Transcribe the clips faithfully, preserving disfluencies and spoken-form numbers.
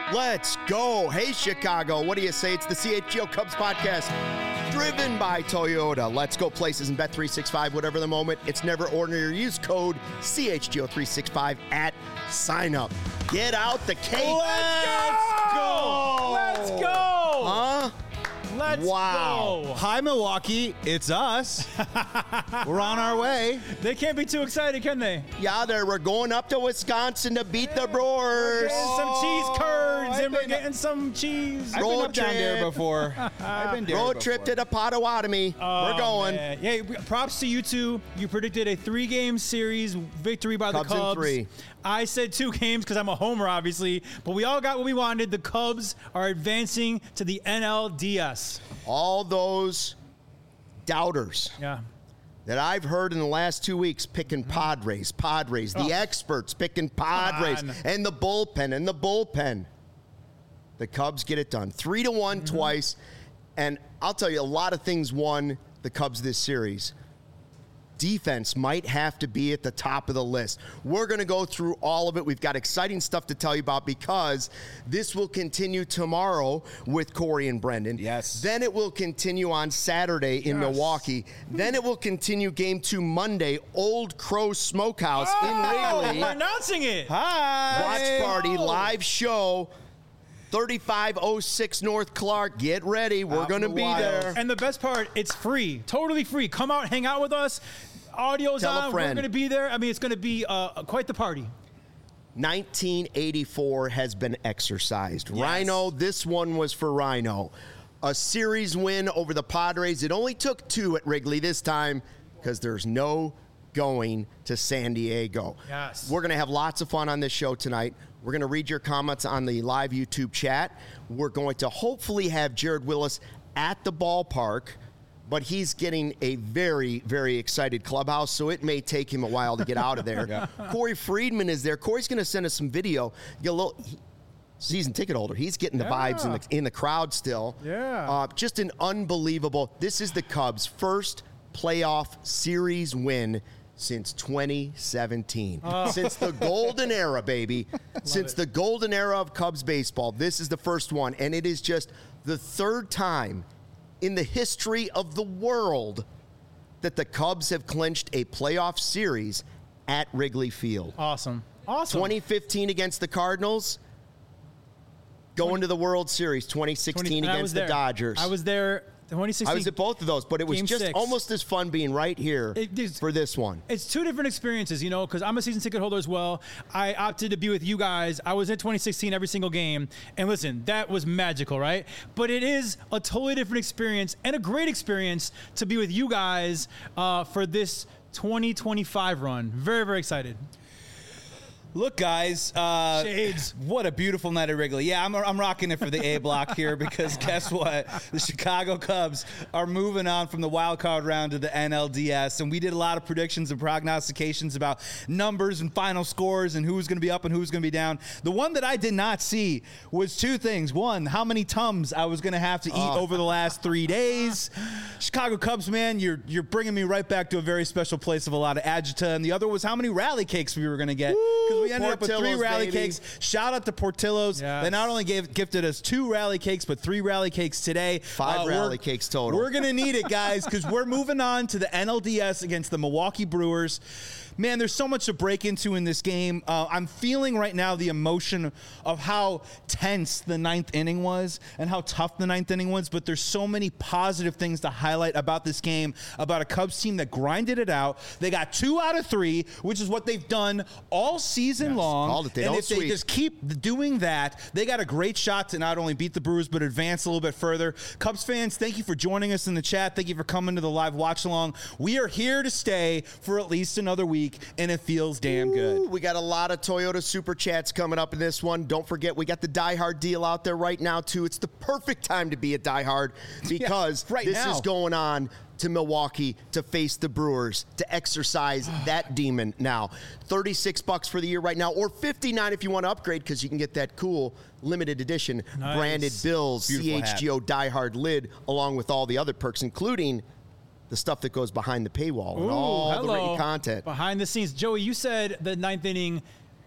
Let's go. Hey, Chicago. What do you say? It's the C H G O Cubs podcast, driven by Toyota. Let's go places and bet three sixty-five, whatever the moment. It's never ordinary. Use code C H G O three sixty-five at sign up. Get out the cake. Let's go. Let's go. Huh? Let's Wow. go. Hi, Milwaukee. It's us. We're on our way. They can't be too excited, can they? Yeah, there. We're going up to Wisconsin to beat the Brewers. Getting some cheese curds, I've and we're been- getting some cheese. I've Road been up down trip. there before. I've been there Road before. trip to the Potawatomi. Oh, We're going. man. Yeah, we- props to you two. You predicted a three-game series victory by Cubs the in Cubs. three. I said two games because I'm a homer, obviously. But we all got what we wanted. The Cubs are advancing to the N L D S. All those doubters Yeah. that I've heard in the last two weeks picking Padres, Padres, the Oh. experts picking Padres, on. and the bullpen, and the bullpen. The Cubs get it done. Three to one Mm-hmm. twice. And I'll tell you, a lot of things won the Cubs this series. Defense might have to be at the top of the list. We're going to go through all of it. We've got exciting stuff to tell you about because this will continue tomorrow with Corey and Brendan. Yes. Then it will continue on Saturday in Yes. Milwaukee. Then it will continue game two Monday, Old Crow Smokehouse Oh, in Wrigley. we're announcing it. Hi. Watch party, Oh. live show, thirty-five oh six North Clark. Get ready. We're Out going to in the be wild. there. And the best part, it's free. Totally free. Come out, hang out with us. Audio's Tell a on. We're friend. going to be there. I mean, it's going to be uh, quite the party. nineteen eighty-four has been exercised. Yes. Rhino, this one was for Rhino. A series win over the Padres. It only took two at Wrigley this time because there's no going to San Diego. Yes. We're going to have lots of fun on this show tonight. We're going to read your comments on the live YouTube chat. We're going to hopefully have Jared Willis at the ballpark, but he's getting a very, very excited clubhouse, so it may take him a while to get out of there. Yeah. Corey Friedman is there. Corey's going to send us some video. Get a little he- season ticket holder. He's getting the Yeah. vibes in the in the crowd still. Yeah. Uh, just an unbelievable. This is the Cubs' first playoff series win since twenty seventeen. Since the golden era, baby. Since it. the golden era of Cubs baseball, this is the first one, and it is just the third time in the history of the world that the Cubs have clinched a playoff series at Wrigley Field. Awesome. Awesome. twenty fifteen against the Cardinals, going to the World Series. twenty sixteen and I against was the there. Dodgers. I was there twenty sixteen. I was at both of those, but it was Game just six. almost as fun being right here It is- for this one. It's two different experiences, you know, because I'm a season ticket holder as well. I opted to be with you guys. I was in twenty sixteen every single game. And listen, that was magical, right? But it is a totally different experience and a great experience to be with you guys uh, for this twenty twenty-five run. Very, very excited. Look, guys. Uh, Shades. What a beautiful night at Wrigley. Yeah, I'm, I'm rocking it for the A block here because guess what? The Chicago Cubs are moving on from the wild card round to the N L D S, and we did a lot of predictions and prognostications about numbers and final scores and who was going to be up and who was going to be down. The one that I did not see was two things. One, how many Tums I was going to have to eat Oh. over the last three days. Chicago Cubs, man, you're you're bringing me right back to a very special place of a lot of agita. And the other was how many rally cakes we were going to get. Because we ended up with three Portillo's, rally baby. cakes. Shout out to Portillo's. Yes. They not only gave gifted us two rally cakes, but three rally cakes today. Five we're- rally cakes total. We're going to need it, guys, because we're moving on to the N L D S against the Milwaukee Brewers. Man, there's so much to break into in this game. Uh, I'm feeling right now the emotion of how tense the ninth inning was and how tough the ninth inning was, but there's so many positive things to highlight about this game, about a Cubs team that grinded it out. They got two out of three, which is what they've done all season long. Called it. They and don't if they sweep. just keep doing that, they got a great shot to not only beat the Brewers, but advance a little bit further. Cubs fans, thank you for joining us in the chat. Thank you for coming to the live watch along. We are here to stay for at least another week, and it feels damn good. Ooh, we got a lot of Toyota Super Chats coming up in this one. Don't forget, we got the Die Hard deal out there right now, too. It's the perfect time to be a Die Hard because Yeah, right this now. is going on to Milwaukee to face the Brewers, to exercise that demon now. thirty-six bucks for the year right now, or fifty-nine if you want to upgrade because you can get that cool limited edition Nice. branded Bills Beautiful C H G O Die Hard lid along with all the other perks, including the stuff that goes behind the paywall and Ooh, all the hello. written content. Behind the scenes. Joey, you said the ninth inning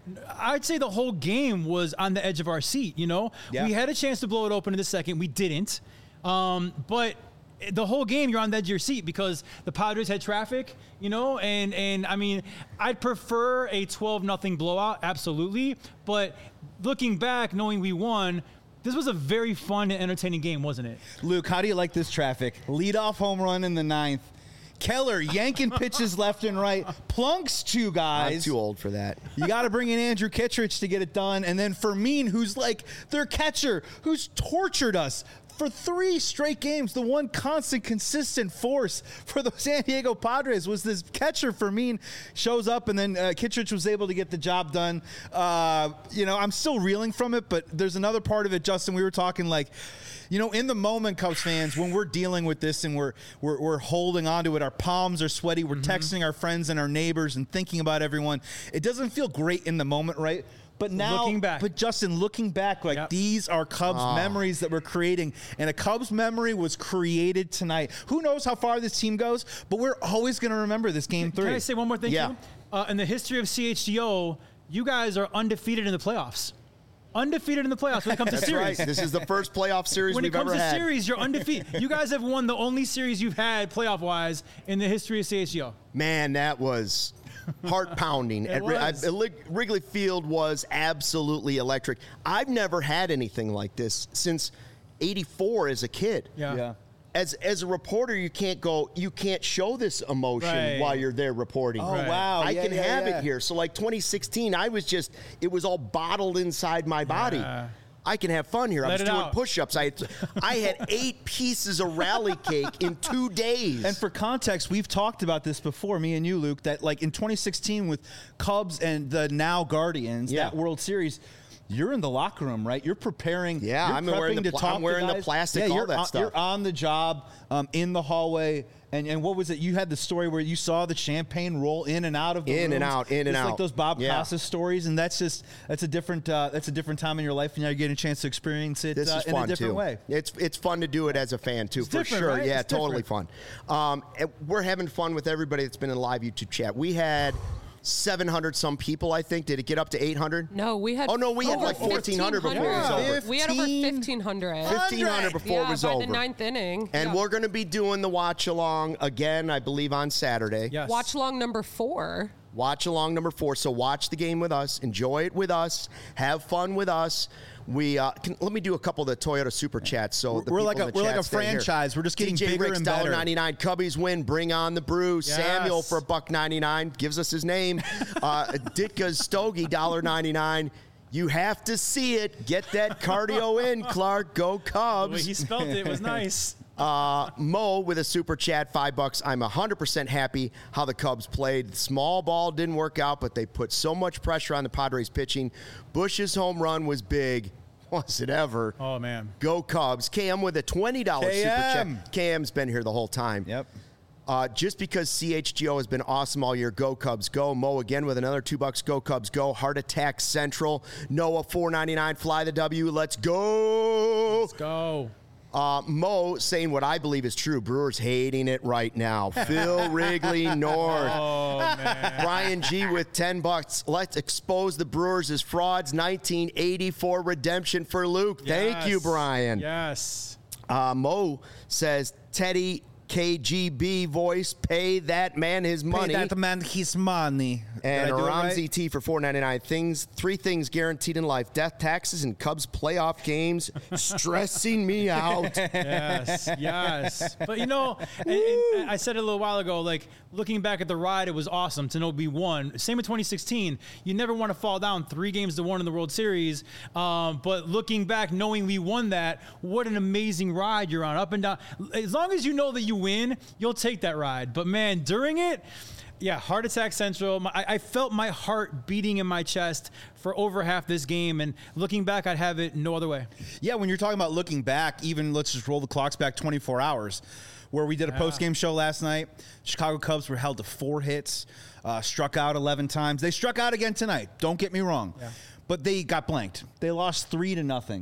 I'd say the whole game was on the edge of our seat. You know, Yeah. we had a chance to blow it open in the second. We didn't. Um, but the whole game, you're on the edge of your seat because the Padres had traffic, you know, and, and I mean, I'd prefer a twelve nothing blowout, absolutely. But looking back, knowing we won, this was a very fun and entertaining game, wasn't it? Luke, how do you like this traffic? Leadoff home run in the ninth. Keller yanking pitches left and right. Plunks two guys. I'm too old for that. You got to bring in Andrew Kittredge to get it done. And then Fermin, who's like their catcher, who's tortured us for three straight games. The one constant, consistent force for the San Diego Padres was this catcher. Fermin shows up, and then uh, Kittredge was able to get the job done. Uh, you know, I'm still reeling from it, but there's another part of it, Justin. We were talking like, you know, in the moment, Cubs fans, when we're dealing with this and we're we're, we're holding on to it, our palms are sweaty, we're mm-hmm. texting our friends and our neighbors and thinking about everyone. It doesn't feel great in the moment, right? But now, looking back. but Justin, looking back, like Yep. these are Cubs Oh. memories that we're creating, and a Cubs memory was created tonight. Who knows how far this team goes, but we're always going to remember this game three. Can I say one more thing, Yeah. too? Uh, in the history of C H G O, you guys are undefeated in the playoffs. Undefeated in the playoffs when it comes to That's series. right. This is the first playoff series When it we've comes ever to had. series, you're undefeated. You guys have won the only series you've had playoff-wise in the history of C H G O. Man, that was heart pounding. It was. Wrigley Field was absolutely electric. I've never had anything like this since eighty-four as a kid. Yeah. Yeah. As as a reporter, you can't go, you can't show this emotion Right. while you're there reporting. Oh, Right. wow. I Yeah, can yeah, have yeah. it here. So like twenty sixteen, I was just, it was all bottled inside my body. Yeah. I can have fun here. I Let was it doing out. push-ups. I had, I had eight pieces of rally cake in two days. And for context, we've talked about this before, me and you, Luke, that like in twenty sixteen with Cubs and the now Guardians, Yeah. that World Series, you're in the locker room, right? You're preparing. Yeah, you're I'm wearing prepping the to pla- talk I'm wearing to the guys. plastic, Yeah, all you're that on, stuff. You're on the job, um, in the hallway. And, and what was it? You had the story where you saw the champagne roll in and out of the In and rooms. out, in and It's out. like those Bob Yeah. Costas stories, and that's just that's a different uh, that's a different time in your life, and now you're getting a chance to experience it This uh, is in fun a different too. way. It's it's fun to do it as a fan too, It's for different, sure. right? Yeah, It's totally different. fun. Um, and we're having fun with everybody that's been in live YouTube chat. We had seven hundred some people, I think. Did it get up to eight hundred? No, we had. Oh, no, we had over like fourteen hundred before it was fifteen hundred. over. We had over fifteen hundred. fifteen hundred before yeah, it was by over. the ninth inning. And Yeah. we're going to be doing the watch along again, I believe, on Saturday. Yes. Watch along number four. Watch along number four. So watch the game with us, enjoy it with us, have fun with us. We uh, can, let me do a couple of the Toyota super chats. So the We're people like a- in the we're like chat a stay here. franchise. We're just getting D J bigger Ricks, and better. one ninety-nine. Cubbies win. Bring on the brews. Yes. Samuel for a buck ninety-nine gives us his name. Uh, Ditka's Stogie one ninety-nine. You have to see it. Get that cardio in, Clark. Go The way Cubs. he spelled it was nice. Uh, Mo with a super chat, five bucks. I'm one hundred percent happy how the Cubs played. The small ball didn't work out, but they put so much pressure on the Padres pitching. Bush's home run was big. Was it ever? Oh, man. Go Cubs. Cam with a twenty dollars super K M. chat. Cam's been here the whole time. Yep. Uh, just because C H G O has been awesome all year, go Cubs, go. Mo again with another two bucks, go Cubs, go. Heart Attack Central. Noah four ninety-nine, fly the W. Let's go. Let's go. Uh, Mo saying what I believe is true. Brewers hating it right now. Phil Wrigley North. Oh, man. Brian G with ten bucks. Let's expose the Brewers as frauds. nineteen eighty-four redemption for Luke. Thank you, Yes. Brian. Yes. Uh, Mo says Teddy K G B voice, pay that man his money. Pay that man his money. Did And I do it Ramsey right? T for four ninety-nine. Things, three things guaranteed in life: death, taxes, and Cubs playoff games. Stressing me out. Yes, yes. But you know, and, and I said it a little while ago, like looking back at the ride, it was awesome to know we won. Same in twenty sixteen. You never want to fall down three games to one in the World Series. Um, but looking back, knowing we won that, what an amazing ride you're on, up and down. As long as you know that you win, you'll take that ride. But man, during it, yeah, Heart Attack Central. My, I, I felt my heart beating in my chest for over half this game, and looking back, I'd have it no other way. Yeah, when you're talking about looking back, even let's just roll the clocks back twenty-four hours, where we did a Yeah. post-game show last night. Chicago Cubs were held to four hits, uh, struck out eleven times. They struck out again tonight. Don't get me wrong. Yeah. But they got blanked. They lost three to nothing.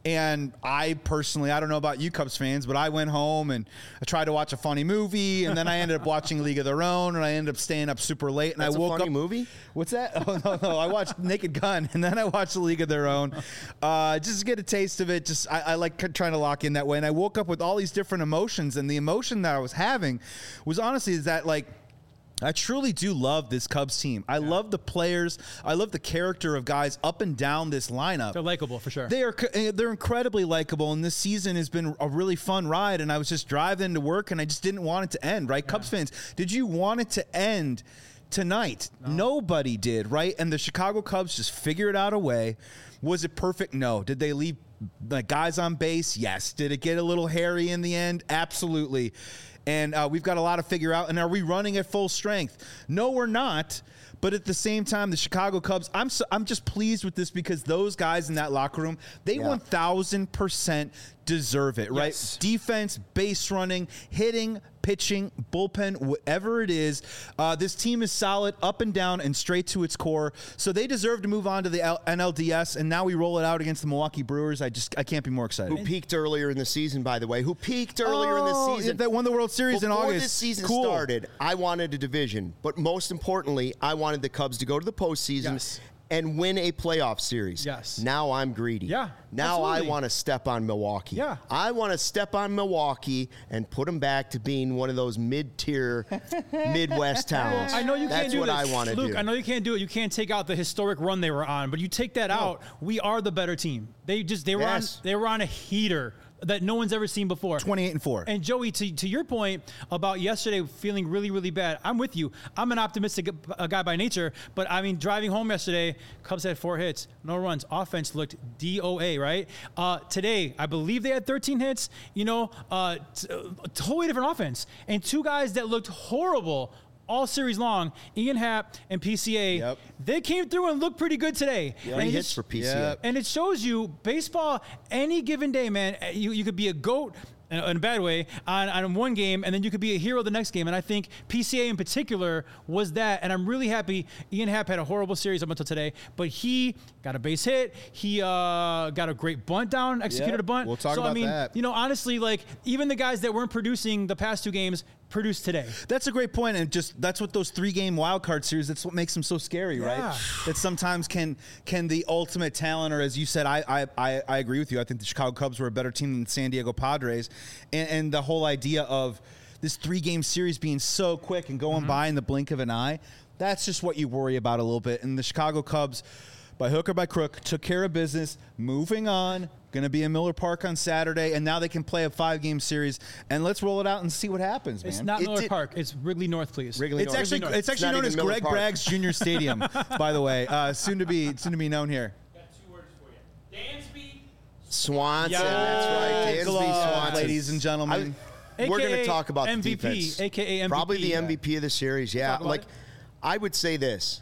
And I personally, I don't know about you Cubs fans, but I went home and I tried to watch a funny movie, and then I ended up watching League of Their Own, and I ended up staying up super late. And That's I woke a funny up. movie? What's that? Oh no, no! I watched Naked Gun, and then I watched the League of Their Own, uh, just to get a taste of it. Just I, I like trying to lock in that way, and I woke up with all these different emotions, and the emotion that I was having was honestly is that like. I truly do love this Cubs team. I yeah. love the players. I love the character of guys up and down this lineup. They're likable for sure. They are they're incredibly likable, and this season has been a really fun ride. And I was just driving to work, and I just didn't want it to end. Right, yeah. Cubs fans, did you want it to end tonight? No. Nobody did. Right, and the Chicago Cubs just figured out a way. Was it perfect? No. Did they leave the guys on base? Yes. Did it get a little hairy in the end? Absolutely. And uh, we've got a lot to figure out. And are we running at full strength? No, we're not. But at the same time, the Chicago Cubs, I'm so, I'm just pleased with this because those guys in that locker room, they yeah. one thousand percent deserve it, right? Yes. Defense, base running, hitting, pitching, bullpen, whatever it is. Uh, this team is solid up and down and straight to its core. So they deserve to move on to the L- N L D S, and now we roll it out against the Milwaukee Brewers. I just I can't be more excited. Who peaked earlier in the season, by the way? Who peaked earlier oh, in the season? That won the World Series Before in August. Before this season cool. started, I wanted a division. But most importantly, I wanted the Cubs to go to the postseason. Yes. And win a playoff series. Yes. Now I'm greedy. Yeah. Now absolutely. I want to step on Milwaukee. Yeah. I want to step on Milwaukee and put them back to being one of those mid-tier Midwest towns. I know you That's can't do what this. I want to do. Luke, I know you can't do it. You can't take out the historic run they were on, but you take that no. out, we are the better team. They just they were yes. on they were on a heater that no one's ever seen before. twenty-eight and four. And Joey, to, to your point about yesterday feeling really, really bad, I'm with you. I'm an optimistic a guy by nature, but I mean, driving home yesterday, Cubs had four hits, no runs. Offense looked D O A, right? Uh, today, I believe they had thirteen hits. You know, uh, t- totally different offense. And two guys that looked horrible all series long, Ian Happ and P C A, yep. they came through and looked pretty good today. Three and hits for P C A. Yep. And it shows you baseball, any given day, man, you, you could be a GOAT in a bad way on, on one game, and then you could be a hero the next game. And I think P C A in particular was that. And I'm really happy. Ian Happ had a horrible series up until today, but he got a base hit. He uh, got a great bunt down, executed Yep. a bunt. We'll talk so, about I mean, that. you know, honestly, like even the guys that weren't producing the past two games produced today. That's a great point, and just that's what those three-game wild card series. That's what makes them so scary, Yeah. right? That sometimes can can the ultimate talent, or as you said, I I, I I agree with you. I think the Chicago Cubs were a better team than the San Diego Padres, and, and the whole idea of this three-game series being so quick and going mm-hmm. by in the blink of an eye. That's just what you worry about a little bit. And the Chicago Cubs, by hook or by crook, took care of business. Moving on. Going to be in Miller Park on Saturday, and now they can play a five-game series. And let's roll it out and see what happens, man. It's not It Miller did- Park. It's Wrigley North, please. Wrigley It's North. actually North. it's actually not known even as Miller Greg Park. Bragg's Junior Stadium, by the way. Uh, soon to be soon to be known here. Got two words for you. Dansby. Swanson. Yeah. That's right. Dansby Glove, Swanson. ladies and gentlemen. I- we're going to A K A talk about M V P, the defense. A K A M V P. Probably the Yeah. M V P of the series. Yeah. talk about Like, it? I would say this.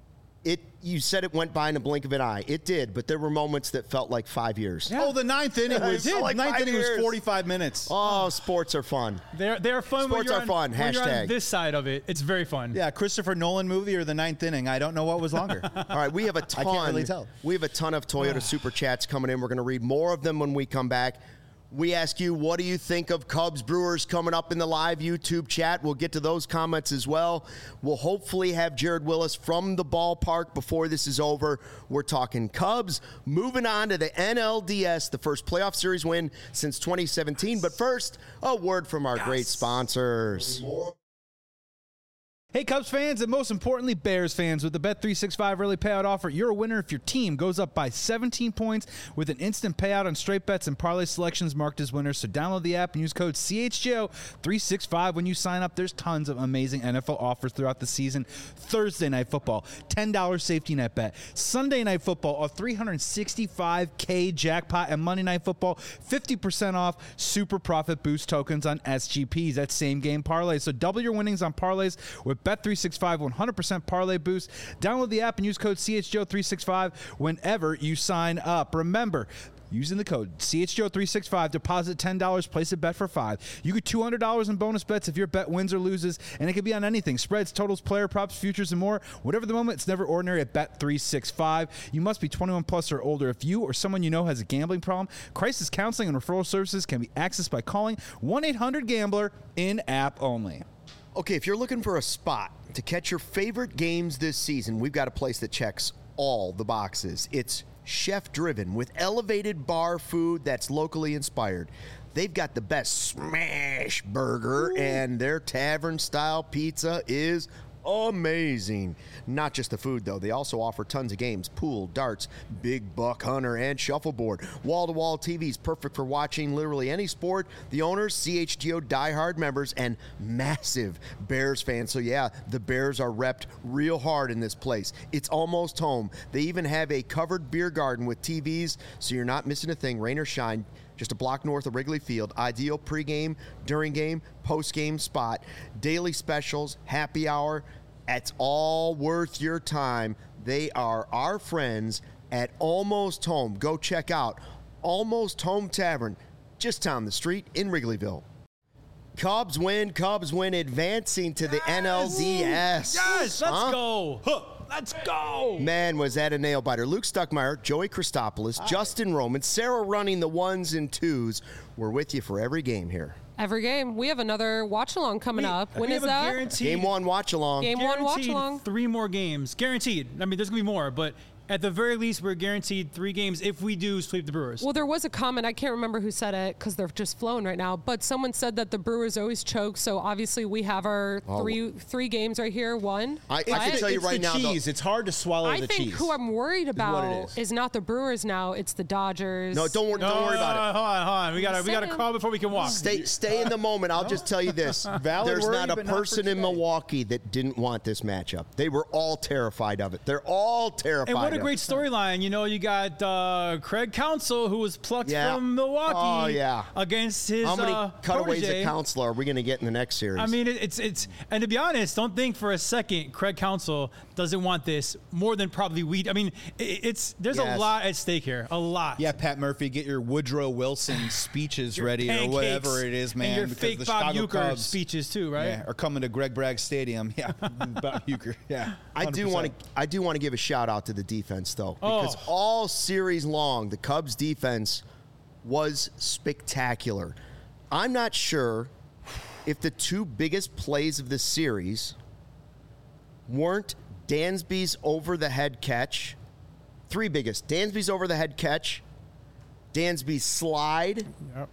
It. You said it went by in a blink of an eye. It did, but there were moments that felt like five years. Yeah. Oh, the ninth inning It was felt like ninth five inning was years. forty-five minutes. Oh, sports are fun. They're they're fun. when Sports you're are on, fun. When you're on Hashtag. this side of it, it's very fun. Yeah, Christopher Nolan movie or the ninth inning. I don't know what was longer. All right, we have a ton. can't really tell. We have a ton of Toyota Super Chats coming in. We're going to read more of them when we come back. We ask you, what do you think of Cubs Brewers coming up in the live YouTube chat? We'll get to those comments as well. We'll hopefully have Jared Willis from the ballpark before this is over. We're talking Cubs, moving on to the N L D S, the first playoff series win since twenty seventeen. But first, a word from our great sponsors. Hey, Cubs fans, and most importantly, Bears fans, with the Bet three sixty-five early payout offer, you're a winner if your team goes up by seventeen points with an instant payout on straight bets and parlay selections marked as winners. So download the app and use code C H G O three sixty-five when you sign up. There's tons of amazing N F L offers throughout the season. Thursday Night Football, ten dollars safety net bet. Sunday Night Football, a three hundred sixty-five K jackpot. And Monday Night Football, fifty percent off super profit boost tokens on S G Ps. That's same game parlays. So double your winnings on parlays with Bet three sixty-five one hundred percent parlay boost. Download the app and use code C H G O three sixty-five whenever you sign up. Remember, Using the code C H G O three sixty-five, deposit ten dollars, place a bet for five. You get two hundred dollars in bonus bets if your bet wins or loses, and it can be on anything. Spreads, totals, player props, futures, and more. Whatever the moment, it's never ordinary at Bet three sixty-five. You must be twenty-one plus or older. If you or someone you know has a gambling problem, crisis counseling and referral services can be accessed by calling one eight hundred gambler in-app only. Okay, if you're looking for a spot to catch your favorite games this season, we've got a place that checks all the boxes. It's chef-driven with elevated bar food that's locally inspired. They've got the best smash burger, Ooh. and their tavern-style pizza is amazing. Not just the food, though. They also offer tons of games: pool, darts, big buck hunter, and shuffleboard. Wall-to-wall T Vs, perfect for watching literally any sport. The owners, C H G O diehard members, and massive Bears fans. So yeah, the Bears are repped real hard in this place. It's almost home. They even have a covered beer garden with T Vs, so you're not missing a thing, rain or shine. Just a block north of Wrigley Field. Ideal pregame, during game, post-game spot. Daily specials, happy hour. It's all worth your time. They are our friends at Almost Home. Go check out Almost Home Tavern, just down the street in Wrigleyville. Cubs win. Cubs win, advancing to the yes. N L D S. Yes, let's huh? go. Huh. Let's go. Man, was that a nail biter. Luke Stuckmeyer, Joey Christopoulos, Hi. Justin Roman, Sarah running the ones and twos. We're with you for every game here. Every game. We have another watch-along coming we, up. When we is have a that? Guaranteed, game one watch-along. Game one watch-along. Three more games. Guaranteed. I mean, there's going to be more, but at the very least, we're guaranteed three games if we do sweep the Brewers. Well, there was a comment. I can't remember who said it because they're just flowing right now. But someone said that the Brewers always choke. So obviously, we have our oh. three three games right here. One. I, I can tell you it's right the now. Cheese. Though, it's hard to swallow I the think cheese. who I'm worried about is, is. is not the Brewers now. It's the Dodgers. No, don't, wor- no, don't worry about no, it. Hold on, hold on. We got we got to crawl before we can walk. Stay, stay in the moment. I'll just tell you this: Valid there's worry, not a but not for person in today. Milwaukee that didn't want this matchup. They were all terrified of it. They're all terrified. And what a of great it. storyline. You know, you got uh, Craig Counsell, who was plucked Yeah. from Milwaukee Oh, yeah. against his How many uh, cutaways protege. of Counsell are we going to get in the next series? I mean, it, it's it's and to be honest, don't think for a second Craig Counsell doesn't want this more than probably we. I mean, it, it's there's Yes. a lot at stake here, a lot. Yeah, Pat Murphy, get your Woodrow Wilson speeches ready or Pancakes whatever it is, man. And your because fake the Bob Chicago Uecker Cubs, speeches too, right? yeah, are coming to Greg Bragg Stadium. Yeah, Bob Uecker. Yeah, I do want to. I do want to give a shout out to the defense, though, because Oh. all series long, the Cubs' defense was spectacular. I'm not sure if the two biggest plays of the series weren't Dansby's over-the-head catch. Three biggest: Dansby's over-the-head catch, Dansby's slide, Yep.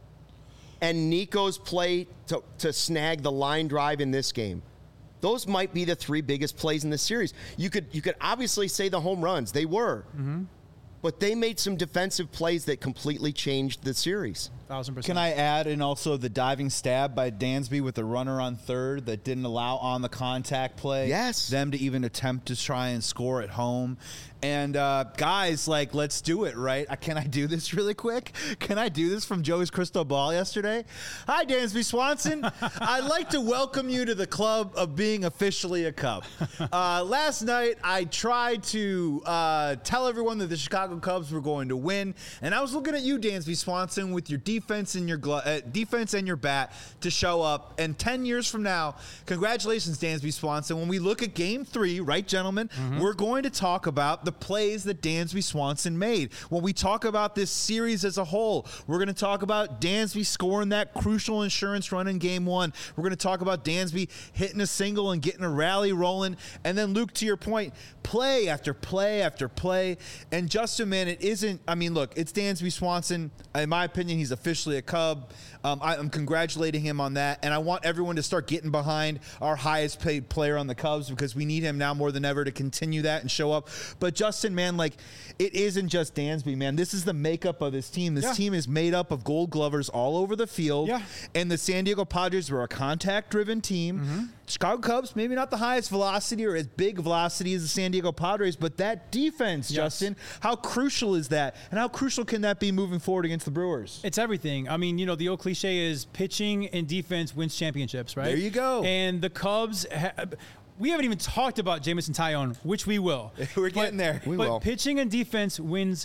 and Nico's play to, to snag the line drive in this game. Those might be the three biggest plays in the series. You could you could obviously say the home runs. They were. Mm-hmm. But they made some defensive plays that completely changed the series. Thousand percent. Can I add, and also the diving stab by Dansby with the runner on third that didn't allow on the contact play. Yes. Them to even attempt to try and score at home. And uh, guys, like, let's do it, right? Uh, Can I do this really quick? Can I do this from Joey's crystal ball yesterday? Hi, Dansby Swanson. I'd like to welcome you to the club of being officially a Cub. Uh, last night, I tried to uh, tell everyone that the Chicago Cubs were going to win, and I was looking at you, Dansby Swanson, with your defense and your glo- uh, defense and your bat to show up. And ten years from now, congratulations, Dansby Swanson. When we look at Game Three, right, gentlemen, mm-hmm. we're going to talk about the plays that Dansby Swanson made. When we talk about this series as a whole, we're going to talk about Dansby scoring that crucial insurance run in Game One. We're going to talk about Dansby hitting a single and getting a rally rolling. And then, Luke, to your point, play after play after play. And Justin, man, it isn't. I mean, look, it's Dansby Swanson. In my opinion, he's officially a Cub. Um, I, I'm congratulating him on that, and I want everyone to start getting behind our highest paid player on the Cubs because we need him now more than ever to continue that and show up. But Justin, man, like, it isn't just Dansby, man. This is the makeup of this team. This Yeah. team is made up of Gold Glovers all over the field. Yeah. And the San Diego Padres were a contact-driven team. Mm-hmm. Chicago Cubs, maybe not the highest velocity or as big velocity as the San Diego Padres, but that defense, Yes. Justin, how crucial is that? And how crucial can that be moving forward against the Brewers? It's everything. I mean, you know, the old cliche is pitching and defense wins championships, right? There you go. And the Cubs, ha- we haven't even talked about Jameson Tyone, which we will. We're But- getting there. We but will. pitching and defense wins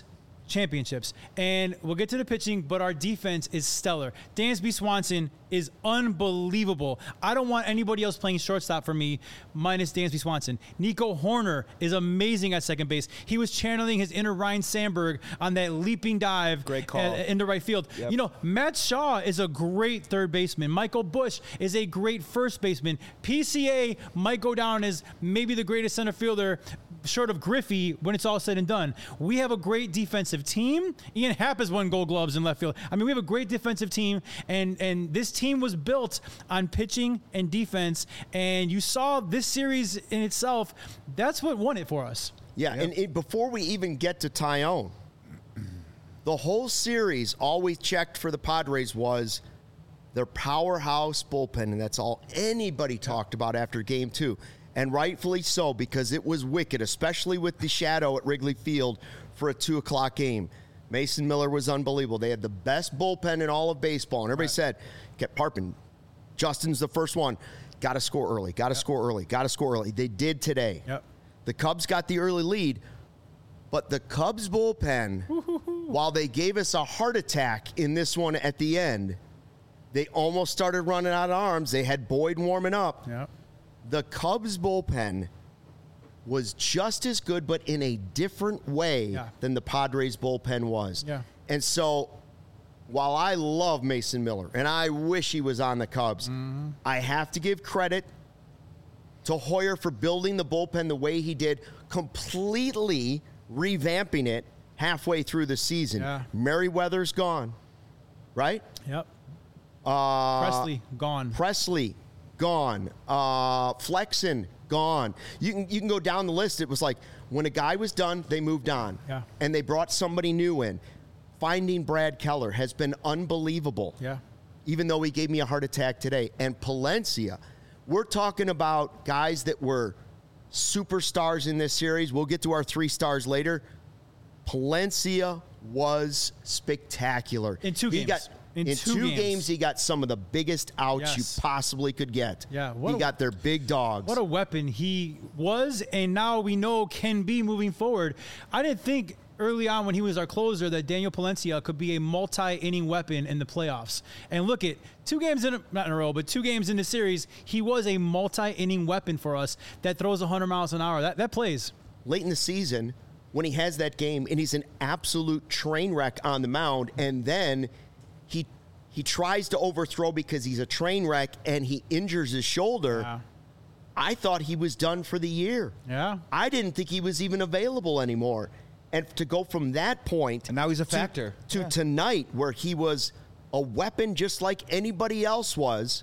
championships. And we'll get to the pitching, but our defense is stellar. Dansby Swanson is unbelievable. I don't want anybody else playing shortstop for me minus Dansby Swanson. Nico Horner is amazing at second base. He was channeling his inner Ryan Sandberg on that leaping dive Great call. uh, into right field. Yep. You know, Matt Shaw is a great third baseman. Michael Busch is a great first baseman. P C A might go down as maybe the greatest center fielder short of Griffey when it's all said and done. We have a great defensive team. Ian Happ has won Gold Gloves in left field. I mean, we have a great defensive team, and and this team was built on pitching and defense, and you saw this series in itself. That's what won it for us. Yeah, and it, before we even get to Tyone, the whole series, all we checked for the Padres was their powerhouse bullpen, and that's all anybody talked about after game two. And rightfully so, because it was wicked, especially with the shadow at Wrigley Field for a two o'clock game. Mason Miller was unbelievable. They had the best bullpen in all of baseball. And everybody right. said, kept harping, Justin's the first one. Got to score early, got to yep. score early, got to score early. They did today. Yep. The Cubs got the early lead, but the Cubs bullpen, while they gave us a heart attack in this one at the end, they almost started running out of arms. They had Boyd warming up. Yep. The Cubs bullpen was just as good, but in a different way yeah. than the Padres bullpen was. Yeah. And so while I love Mason Miller, and I wish he was on the Cubs, mm-hmm. I have to give credit to Hoyer for building the bullpen the way he did, completely revamping it halfway through the season. Yeah. Merriweather's gone, right? Yep. Uh, Presley, gone. Presley, gone. Uh, Flexen, gone. You can you can go down the list. It was like when a guy was done, they moved on. Yeah. And they brought somebody new in. Finding Brad Keller has been unbelievable. Yeah. Even though he gave me a heart attack today. And Palencia, we're talking about guys that were superstars in this series. We'll get to our three stars later. Palencia was spectacular. In two he games. Got, In, in two, two games. games, he got some of the biggest outs Yes. you possibly could get. Yeah, what he a- got their big dogs. What a weapon he was, and now we know can be moving forward. I didn't think early on when he was our closer that Daniel Palencia could be a multi-inning weapon in the playoffs. And look at two games in a, not in a row, but two games in the series, he was a multi-inning weapon for us that throws one hundred miles an hour. That that plays. Late in the season, when he has that game and he's an absolute train wreck on the mound, and then he he tries to overthrow because he's a train wreck and he injures his shoulder. Yeah. I thought he was done for the year. Yeah. I didn't think he was even available anymore. And to go from that point And now he's a to- factor. to Yeah. tonight where he was a weapon just like anybody else was,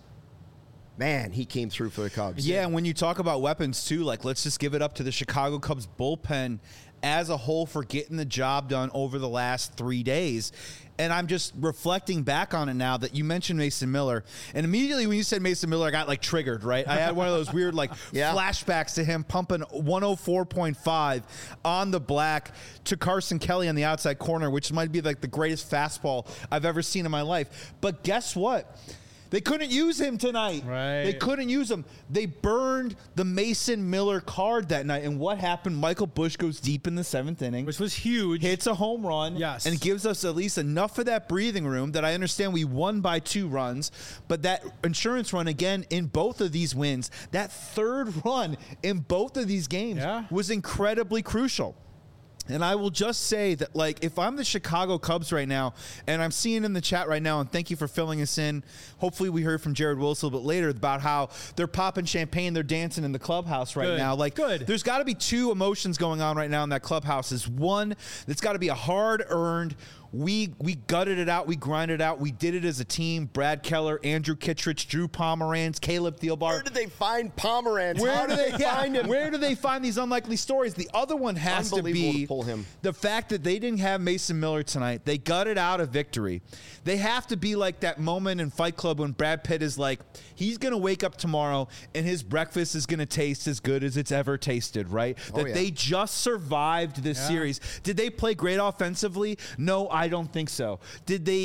man, he came through for the Cubs. Yeah, and when you talk about weapons too, like let's just give it up to the Chicago Cubs bullpen as a whole for getting the job done over the last three days. And I'm just reflecting back on it now that you mentioned Mason Miller. And immediately when you said Mason Miller, I got like triggered, right? I had one of those weird like Yeah. flashbacks to him pumping one oh four point five on the black to Carson Kelly on the outside corner, which might be like the greatest fastball I've ever seen in my life. But guess what? They couldn't use him tonight. Right. They couldn't use him. They burned the Mason Miller card that night. And what happened? Michael Busch goes deep in the seventh inning, Which was huge. hits a home run, Yes. and gives us at least enough of that breathing room that I understand we won by two runs. But that insurance run, again, in both of these wins, that third run in both of these games Yeah. was incredibly crucial. And I will just say that, like, if I'm the Chicago Cubs right now, and I'm seeing in the chat right now, and thank you for filling us in. Hopefully we heard from Jared Wilson a little bit later about how they're popping champagne, they're dancing in the clubhouse right Good. now. Like, Good. there's got to be two emotions going on right now in that clubhouse. Is one, it's got to be a hard-earned, we we gutted it out, we grinded it out, we did it as a team. Brad Keller, Andrew Kittredge, Drew Pomeranz, Caleb Thielbar. Where did they find Pomeranz? Where How do they yeah, find him? Where do they find these unlikely stories? The other one has to Unbelievable be to pull him. the fact that they didn't have Mason Miller tonight. They gutted out a victory. They have to be like that moment in Fight Club when Brad Pitt is like, he's going to wake up tomorrow and his breakfast is going to taste as good as it's ever tasted, right? Oh, that yeah. they just survived this Yeah. series. Did they play great offensively? No, I don't think so. Did they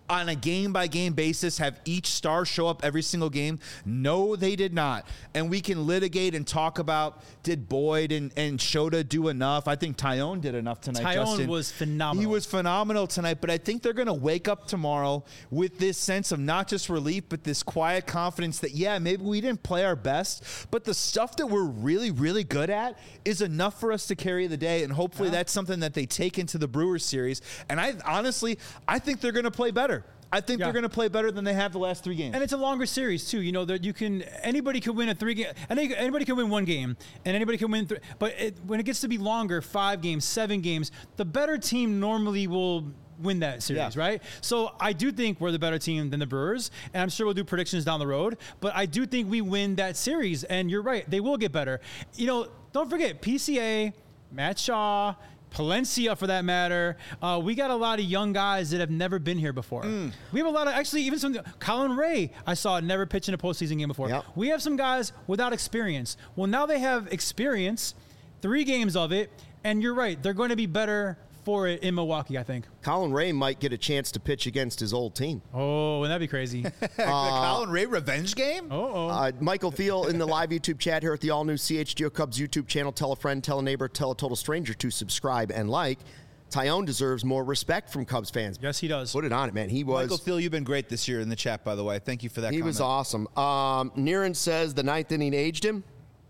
on a game-by-game basis have each star show up every single game? No, they did not. And we can litigate and talk about, did Boyd and, and Shota do enough? I think Tyone did enough tonight, Tyone Justin. was phenomenal. He was phenomenal tonight, but I think they're going to wake up tomorrow with this sense of not just relief, but this quiet confidence that, yeah, maybe we didn't play our best, but the stuff that we're really, really good at is enough for us to carry the day, and hopefully yeah. that's something that they take into the Brewers series. And I honestly, I think they're going to play better. I think yeah. they're going to play better than they have the last three games. And it's a longer series too. You know that you can anybody can win a three game. Anybody can win one game, and anybody can win. Th- but it, when it gets to be longer, five games, seven games, the better team normally will win that series, yeah. right? So I do think we're the better team than the Brewers, and I'm sure we'll do predictions down the road. But I do think we win that series, and you're right, they will get better. You know, don't forget P C A, Matt Shaw, Palencia, for that matter. Uh, we got a lot of young guys that have never been here before. Mm. We have a lot of, actually, even some, Colin Ray, I saw never pitch in a postseason game before. Yep. We have some guys without experience. Well, now they have experience, three games of it, and you're right, they're going to be better for it in Milwaukee, I think. Colin Ray might get a chance to pitch against his old team. Oh, wouldn't that be crazy? uh, the Colin Ray revenge game? Uh-oh. Uh, Michael Thiel in the live YouTube chat here at the all-new C H G O Cubs YouTube channel. Tell a friend, tell a neighbor, tell a total stranger to subscribe and like. Tyone deserves more respect from Cubs fans. Yes, he does. Put it on it, man. He was. Michael Thiel, you've been great this year in the chat, by the way. Thank you for that He comment. was awesome. Um, Niren says the ninth inning aged him.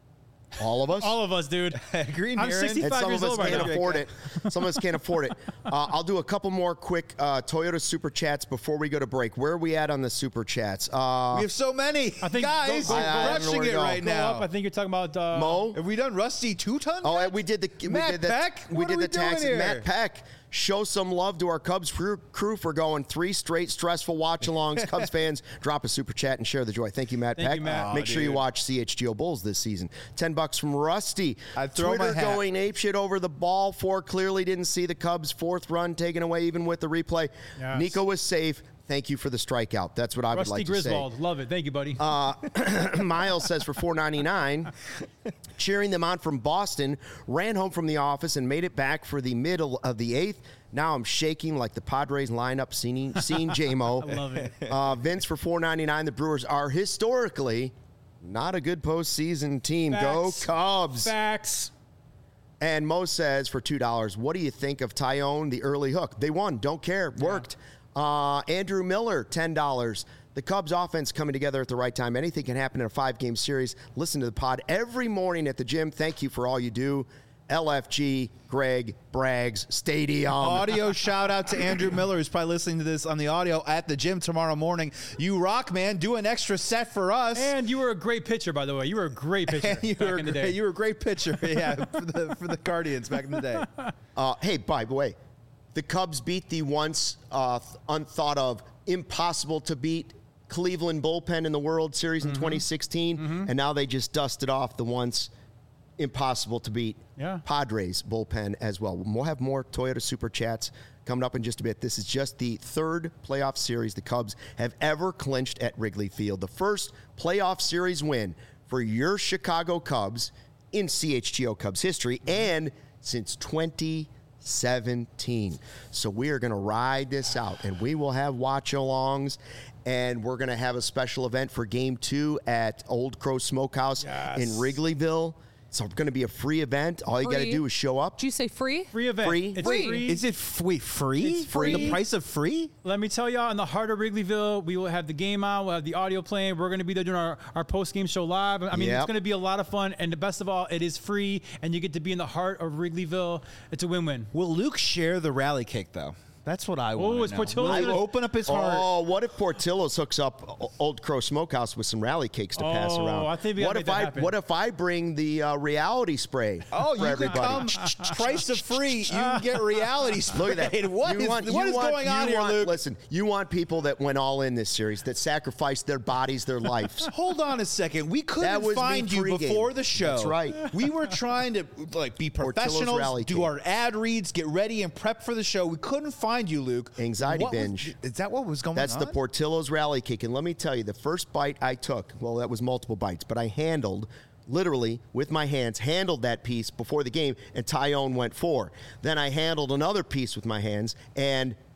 All of us? All of us, dude. Green I'm sixty-five some years of us old right can't now. afford it. Some of us can't afford it. Uh, I'll do a couple more quick uh, Toyota Super Chats before we go to break. Where are we at on the Super Chats? Uh, we have so many. I think Guys, go, go, we're I- I don't know rushing where to it go. right Go now. up. I think you're talking about uh, Mo? Have we done Rusty two-ton? Oh, yet? we did the we Matt did the, Peck? We What did are we the taxi. doing here? Matt Peck, show some love to our Cubs crew, crew for going three straight stressful watch-alongs. Cubs fans, drop a super chat and share the joy. Thank you, Matt Thank Peck. you, Matt. Make Oh, sure you dude. watch C H G O Bulls this season. Ten bucks from Rusty. I'd throw my Twitter hat. going apeshit over the ball four. Clearly didn't see the Cubs' fourth run taken away even with the replay. Yes. Nico was safe. Thank you for the strikeout. That's what I would Rusty like to Griswold. say. Love it. Thank you, buddy. Uh, Miles says for four ninety-nine, cheering them on from Boston, ran home from the office and made it back for the middle of the eighth. Now I'm shaking like the Padres lineup, seeing, seeing J-Mo. I love it. Uh, Vince for four ninety-nine. The Brewers are historically not a good postseason team. Go Facts. Cubs. Facts. And Mo says for two dollars, what do you think of Tyone, the early hook? They won. Don't care. Worked. Uh, Andrew Miller, ten dollars. The Cubs offense coming together at the right time. Anything can happen in a five-game series. Listen to the pod every morning at the gym. Thank you for all you do. L F G, Greg, Braggs, Stadium. Audio shout out to Andrew Miller, who's probably listening to this on the audio at the gym tomorrow morning. You rock, man. Do an extra set for us. And you were a great pitcher, by the way. You were a great pitcher you back were in the great, day. You were a great pitcher, yeah, for the for the Guardians back in the day. Uh, hey, by the way, the Cubs beat the once uh, unthought of, impossible to beat Cleveland bullpen in the World Series in Mm-hmm. twenty sixteen, mm-hmm. and now they just dusted off the once impossible to beat Yeah. Padres bullpen as well. We'll have more Toyota Super Chats coming up in just a bit. This is just the third playoff series the Cubs have ever clinched at Wrigley Field. The first playoff series win for your Chicago Cubs in C H G O Cubs history and since twenty seventeen. So we are going to ride this out, and we will have watch-alongs, and we're going to have a special event for Game two at Old Crow Smokehouse Yes. in Wrigleyville. It's going to be a free event. All you got to Free. do is show up. Did you say free? Free event. Free. It's Free. free. Is it f- wait free? It's free. The price of free? Let me tell y'all, in the heart of Wrigleyville, we will have the game on. We'll have the audio playing. We're going to be there doing our, our post-game show live. I mean, Yep. it's going to be a lot of fun. And the best of all, it is free, and you get to be in the heart of Wrigleyville. It's a win-win. Will Luke share the rally cake though? That's what I want. Oh, is Portillo's Will he gonna- open up his heart? Oh, what if Portillo's hooks up O- Old Crow Smokehouse with some rally cakes to pass Oh, around? I think we gotta what make if that I happen. what if I bring the uh, reality spray Oh, for you everybody? can come. Price of free. You can get reality sprayed. Look at that. What You is, want- what you is want- going on you here, want- Luke? Listen, you want people that went all in this series, that sacrificed their bodies, their lives. Hold on a second. We That couldn't was me find you pregame. before the show. That's right. We were trying to like be Portillo's professionals, rally do cake. our ad reads, get ready, and prep for the show. We couldn't find you, Luke. Anxiety What was- binge. is that what was going That's on? the Portillo's rally cake. And let me tell you, the first bite I took, well, that was multiple bites, but I handled, literally, with my hands, handled that piece before the game, and Tyone went four. Then I handled another piece with my hands, and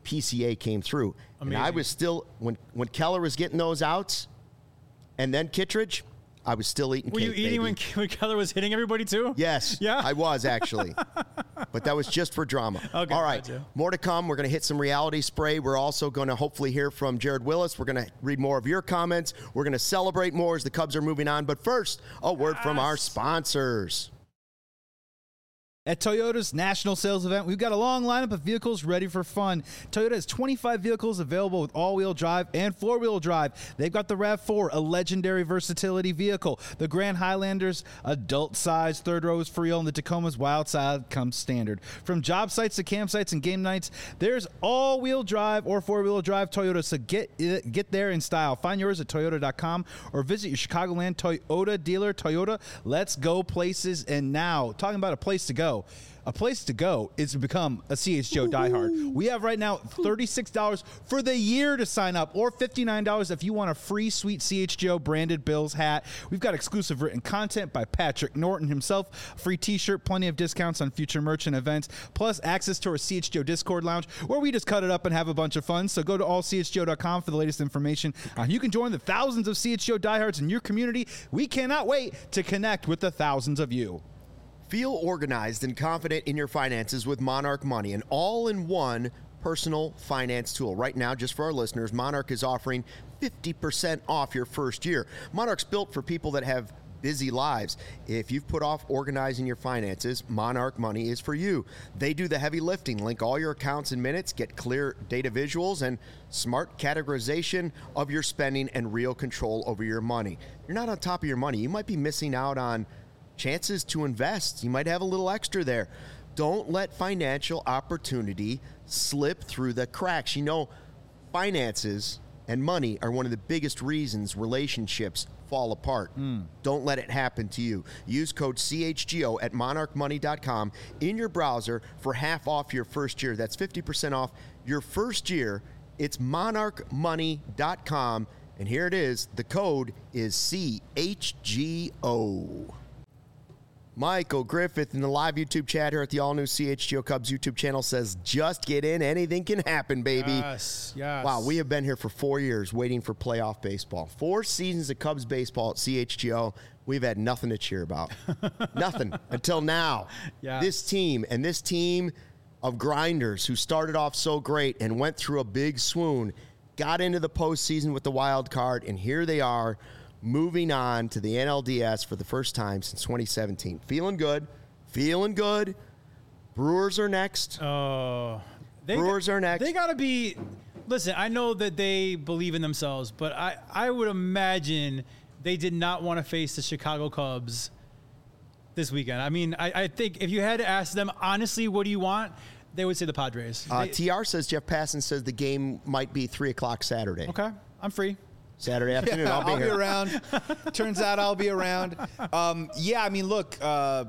P C A came through. Amazing. And I was still, when, when Keller was getting those outs, and then Kittredge, I was still eating Were cake, you eating when, baby. when Keller was hitting everybody too? Yes. Yeah? I was, actually. But that was just for drama. Okay, All right. gotcha. More to come. We're going to hit some reality spray. We're also going to hopefully hear from Jared Willis. We're going to read more of your comments. We're going to celebrate more as the Cubs are moving on. But first, a word from our sponsors. At Toyota's national sales event, we've got a long lineup of vehicles ready for fun. Toyota has twenty-five vehicles available with all-wheel drive and four-wheel drive. They've got the RAV four, a legendary versatility vehicle. The Grand Highlander's adult-size third row is for real, and the Tacoma's wild side comes standard. From job sites to campsites and game nights, there's all-wheel drive or four-wheel drive Toyota, so get get there in style. Find yours at toyota dot com or visit your Chicagoland Toyota dealer. Toyota, let's go places. And now, talking about a place to go. A place to go is to become a C H G O diehard. We have right now thirty-six dollars for the year to sign up, or fifty-nine dollars if you want a free sweet C H G O branded Bills hat. We've got exclusive written content by Patrick Norton himself, a free t-shirt, plenty of discounts on future merch and events, plus access to our C H G O Discord lounge where we just cut it up and have a bunch of fun. So go to all C H G O dot com for the latest information. Uh, you can join the thousands of C H G O diehards in your community. We cannot wait to connect with the thousands of you. Feel organized and confident in your finances with Monarch Money, an all-in-one personal finance tool. Right now, just for our listeners, Monarch is offering fifty percent off your first year. Monarch's built for people that have busy lives. If you've put off organizing your finances, Monarch Money is for you. They do the heavy lifting. Link all your accounts in minutes, get clear data visuals, and smart categorization of your spending and real control over your money. You're not on top of your money. You might be missing out on chances to invest. You might have a little extra there. Don't let financial opportunity slip through the cracks. You know, finances and money are one of the biggest reasons relationships fall apart. Mm. Don't let it happen to you. Use code C H G O at monarch money dot com in your browser for half off your first year. That's fifty percent off your first year. It's monarch money dot com, and here it is. The code is C H G O. Michael Griffith in the live YouTube chat here at the all-new C H G O Cubs YouTube channel says, just get in. Anything can happen, baby. Yes, yes. Wow, we have been here for four years waiting for playoff baseball. Four seasons of Cubs baseball at C H G O. We've had nothing to cheer about. Nothing until now. Yes. This team and this team of grinders who started off so great and went through a big swoon, got into the postseason with the wild card, and here they are, moving on to the N L D S for the first time since twenty seventeen. Feeling good. Feeling good. Brewers are next. Oh, they Brewers got, are next. They got to be. Listen, I know that they believe in themselves, but I, I would imagine they did not want to face the Chicago Cubs this weekend. I mean, I, I think if you had to ask them, honestly, what do you want? They would say the Padres. Uh, They- T R says, Jeff Passan says the game might be three o'clock Saturday. okay, I'm free. Saturday afternoon. Yeah, I'll be I'll here. be around. Turns out I'll be around. Um, yeah, I mean, look, uh,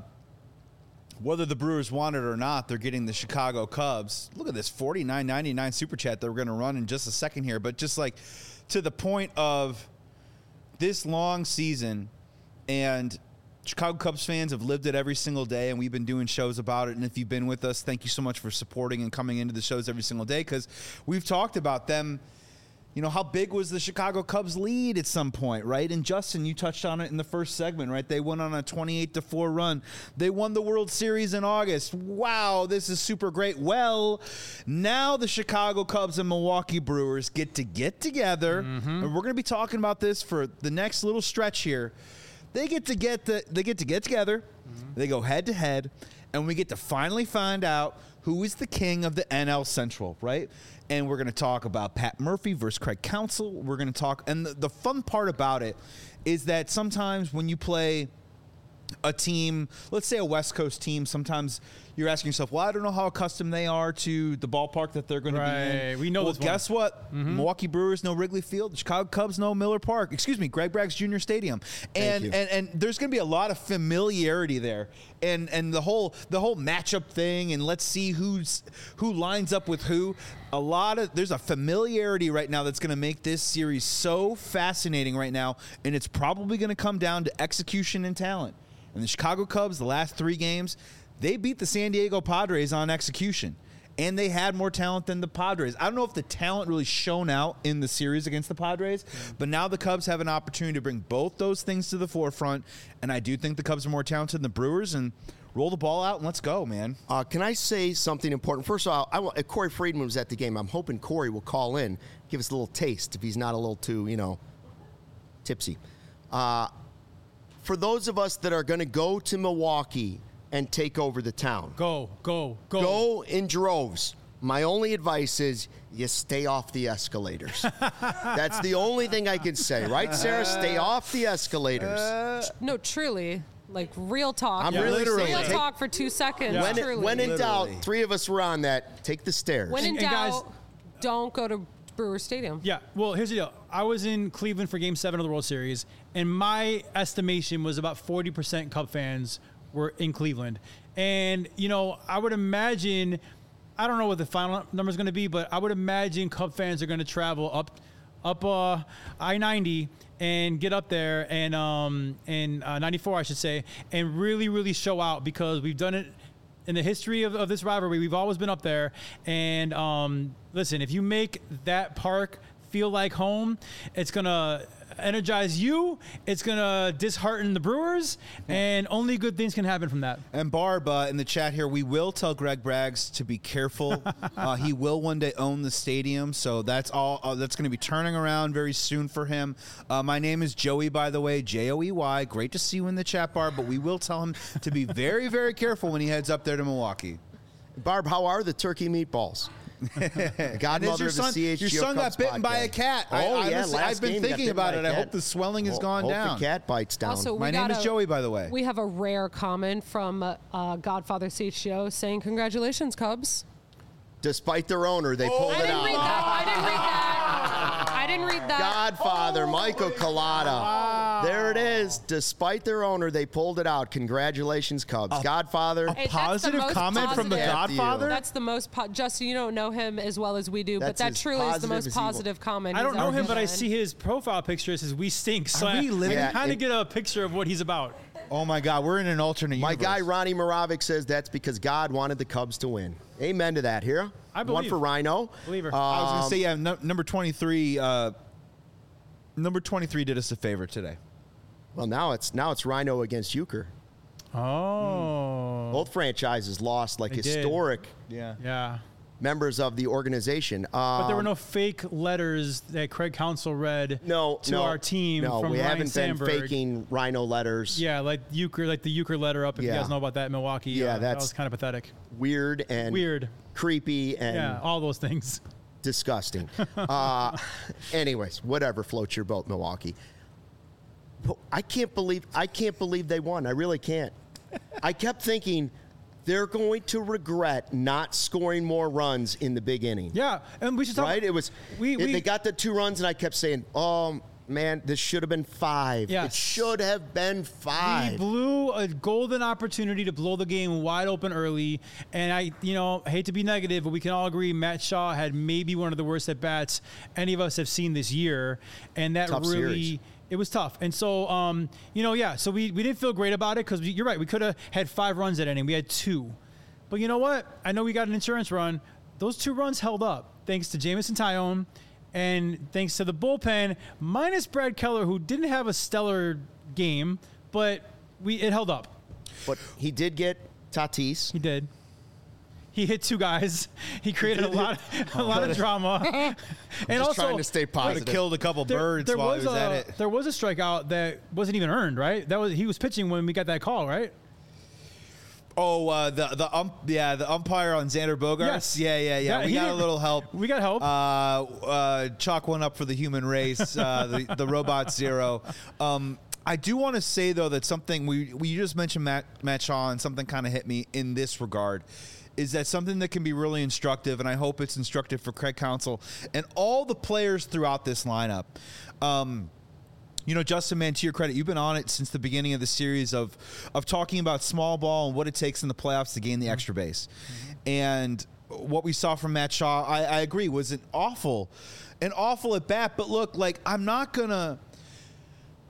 whether the Brewers want it or not, they're getting the Chicago Cubs. Look at this forty-nine ninety-nine super chat that we're going to run in just a second here. But just like to the point of this long season, and Chicago Cubs fans have lived it every single day, and we've been doing shows about it. And if you've been with us, thank you so much for supporting and coming into the shows every single day, because we've talked about them. You know, how big was the Chicago Cubs lead at some point, right? And Justin, you touched on it in the first segment, right? They went on a twenty-eight to four run. They won the World Series in August. Wow, this is super great. Well, now the Chicago Cubs and Milwaukee Brewers get to get together, mm-hmm. and we're going to be talking about this for the next little stretch here. They get to get the they get to get together. Mm-hmm. They go head to head, and we get to finally find out who is the king of the N L Central, right? And we're going to talk about Pat Murphy versus Craig Counsell. We're going to talk, and the, the fun part about it is that sometimes when you play a team, let's say a West Coast team, sometimes you're asking yourself, well, I don't know how accustomed they are to the ballpark that they're going to Right. be in. We know well, this one. guess what? Mm-hmm. Milwaukee Brewers know Wrigley Field. The Chicago Cubs know Miller Park. Excuse me, Greg Braggs Junior Stadium. And you. and and there's going to be a lot of familiarity there. And and the whole the whole matchup thing, and let's see who's who lines up with who. A lot of there's a familiarity right now that's going to make this series so fascinating right now, and it's probably going to come down to execution and talent. And the Chicago Cubs, the last three games, they beat the San Diego Padres on execution. and they had more talent than the Padres. I don't know if the talent really shone out in the series against the Padres, but now the Cubs have an opportunity to bring both those things to the forefront, and I do think the Cubs are more talented than the Brewers, and roll the ball out and let's go, man. Uh, can I say something important? First of all, I want, uh, Corey Friedman was at the game. I'm hoping Corey will call in, give us a little taste if he's not a little too, you know, tipsy. Uh, for those of us that are going to go to Milwaukee and take over the town, Go, go, go. go in droves. My only advice is you stay off the escalators. That's the only thing I can say, right, Sarah? Stay off the escalators. No, truly. Like real talk. I'm Yeah, really literally. saying Real take- talk for two seconds. when, Truly. when in doubt, Literally. three of us were on that. Take the stairs. When in And- and guys- doubt, don't go to Brewer Stadium. Yeah, well, here's the deal. I was in Cleveland for Game Seven of the World Series, and my estimation was about forty percent Cub fans were in Cleveland. And you know, I would imagine, I don't know what the final number is going to be, but I would imagine Cub fans are going to travel up, up uh, I ninety and get up there and um and uh, ninety-four, I should say, and really, really show out because we've done it. In the history of, of this rivalry, we've always been up there. And um, listen, if you make that park feel like home, it's going to energize you. It's going to dishearten the Brewers. And only good things can happen from that. And Barb, uh, in the chat here, we will tell Greg Braggs to be careful. uh, he will one day own the stadium, so that's all. Uh, that's going to be turning around very soon for him. Uh, my name is Joey, by the way, J O E Y. Great to see you in the chat, Barb, but we will tell him to be very, very careful when he heads up there to Milwaukee. Barb, how are the turkey meatballs? And Godmother your of the son, C H G O your son Cubs got bitten by podcast. a cat. Oh, I, I yeah, honestly- last I've been game he got thinking bitten about by it. a I cat. hope the swelling has Ho- gone hope down. the cat bites down. Also, My we name got is a- Joey, by the way. We have a rare comment from uh, uh, Godfather C H G O saying, "Congratulations, Cubs." Despite their owner, they pulled I it didn't out. read that. I didn't read that. I didn't read that. Godfather, Michael Collada. There it is. Despite their owner, they pulled it out. Congratulations, Cubs. Godfather. Hey, that's the Positive most comment from the positive- Godfather? That's the most. Po- Justin, you don't know him as well as we do, That's but that as truly is the positive most as evil. positive comment. I don't he's know ever him, but I given. see his profile picture. It says, "We stink." So Are I, we living- I Yeah, kind it- of get a picture of what he's about. Oh, my God. We're in an alternate My universe. guy, Ronnie Moravec, says that's because God wanted the Cubs to win. Amen to that. Here. I One believe. for Rhino. Believer. Uh, I was going to say, yeah, no, number twenty-three. Uh, number twenty-three did us a favor today. well, now it's now it's Rhino against Euchre. Oh. Both franchises lost like They did. historic Yeah. Yeah. members of the organization. But there were Um, no fake letters that Craig Counsell read no to no, our team No, from we Ryan haven't Sandberg. been faking Rhino letters. Yeah, like Euchre, like the Euchre letter up. If Yeah. you guys know about that in Milwaukee, Yeah, uh, that that's- was kind of pathetic. Weird and Weird. creepy and Yeah, all those things. disgusting. uh, anyways, whatever floats your boat, Milwaukee. But I can't believe I can't believe they won. I really can't. I kept thinking they're going to regret not scoring more runs in the big inning. Yeah, and we should talk. Right? It was we, it- we they got the two runs, and I kept saying, "Oh man, this should have been five. Yes. It should have been We five." blew a golden opportunity to blow the game wide open early, and I, you know, hate to be negative, but we can all agree Matt Shaw had maybe one of the worst at bats any of us have seen this year, and that Tough really. series. It was tough. And so, um, you know, yeah, so we, we didn't feel great about it because you're right. We could have had five runs that inning. We had two. But you know what? I know we got an insurance run. Those two runs held up thanks to Jamison Tyone and thanks to the bullpen, minus Brad Keller, who didn't have a stellar game, but we it held up. But he did get Tatis. He did. He hit two guys. He created a lot, a lot of drama, and Just also trying to stay Could positive. have killed a couple there, birds there while was he was a, at it. There was a strikeout that wasn't even earned, right? That was he was pitching when we got that call, right? Oh, uh, the the ump, yeah, the umpire on Xander Bogaerts. Yes. Yeah, yeah, yeah. That- we he got a didn't- little help. we got help. Uh, uh, chalk one up for the human race. Uh, the the robot zero. Um, I do want to say though that something we we just mentioned Matt Matt Shaw, and something kind of hit me in this regard. Is that something that can be really instructive, and I hope it's instructive for Craig Counsell and all the players throughout this lineup. Um, You know, Justin, man, to your credit, you've been on it since the beginning of the series of of talking about small ball and what it takes in the playoffs to gain the extra base. Mm-hmm. And what we saw from Matt Shaw, I, I agree, was an awful, an awful at bat. But look, like I'm not gonna,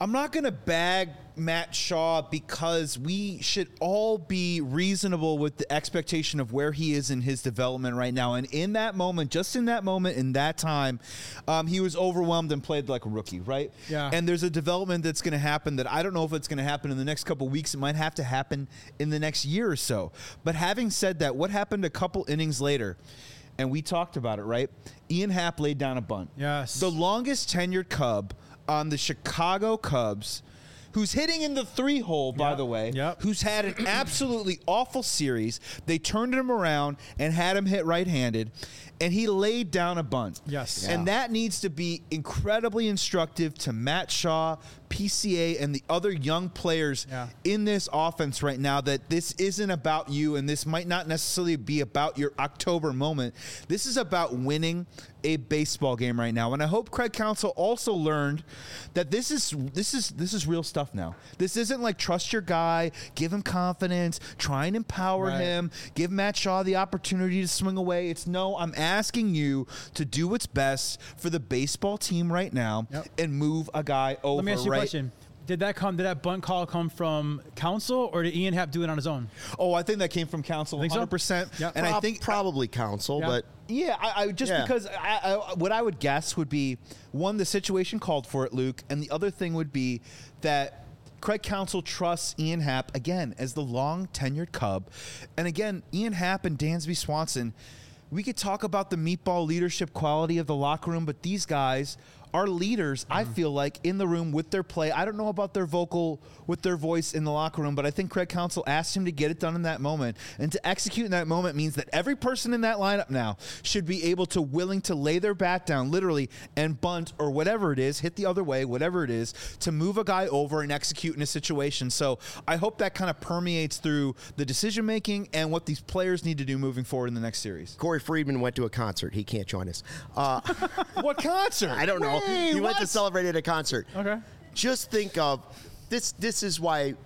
I'm not going to bag Matt Shaw because we should all be reasonable with the expectation of where he is in his development right now. And in that moment, just in that moment, in that time, um, he was overwhelmed and played like a rookie, right? Yeah. And there's a development that's going to happen that I don't know if it's going to happen in the next couple of weeks. It might have to happen in the next year or so. But having said that, what happened a couple innings later? And we talked about it, right? Ian Happ laid down a bunt. Yes. The longest tenured Cub on the Chicago Cubs, who's hitting in the three hole, by Yep. the way, Yep. who's had an absolutely awful series. They turned him around and had him hit right-handed, and he laid down a bunt. Yes. And that needs to be incredibly instructive to Matt Shaw, P C A, and the other young players Yeah. in this offense right now, that this isn't about you, and this might not necessarily be about your October moment. This is about winning a baseball game right now. And I hope Craig Counsell also learned that this is this is this is real stuff now. This isn't like trust your guy, give him confidence, try and empower Right. him, give Matt Shaw the opportunity to swing away. It's no, I'm asking you to do what's best for the baseball team right now Yep. and move a guy over. Let me ask you right? a question. Did that come? Did that bunt call come from Counsell, or did Ian Happ do it on his own? Oh, I think that came from Counsell, Think so? one hundred percent. Yeah. And I Prob- think probably Counsell, Yeah. but Yeah, I, I just Yeah. because I, I, what I would guess would be one, the situation called for it, Luke, and the other thing would be that Craig Counsell trusts Ian Happ again as the long tenured Cub, and again, Ian Happ and Dansby Swanson. We could talk about the meatball leadership quality of the locker room, but these guys are leaders, I feel like, in the room with their play. I don't know about their vocal, with their voice in the locker room, but I think Craig Counsell asked him to get it done in that moment. And to execute in that moment means that every person in that lineup now should be able to, willing to lay their bat down, literally, and bunt or whatever it is, hit the other way, whatever it is, to move a guy over and execute in a situation. So I hope that kind of permeates through the decision-making and what these players need to do moving forward in the next series. Corey Friedman went to a concert. He can't join us. Uh, What concert? I don't know. Hey, he went to what? celebrate at a concert. Okay. Just think of this. This is why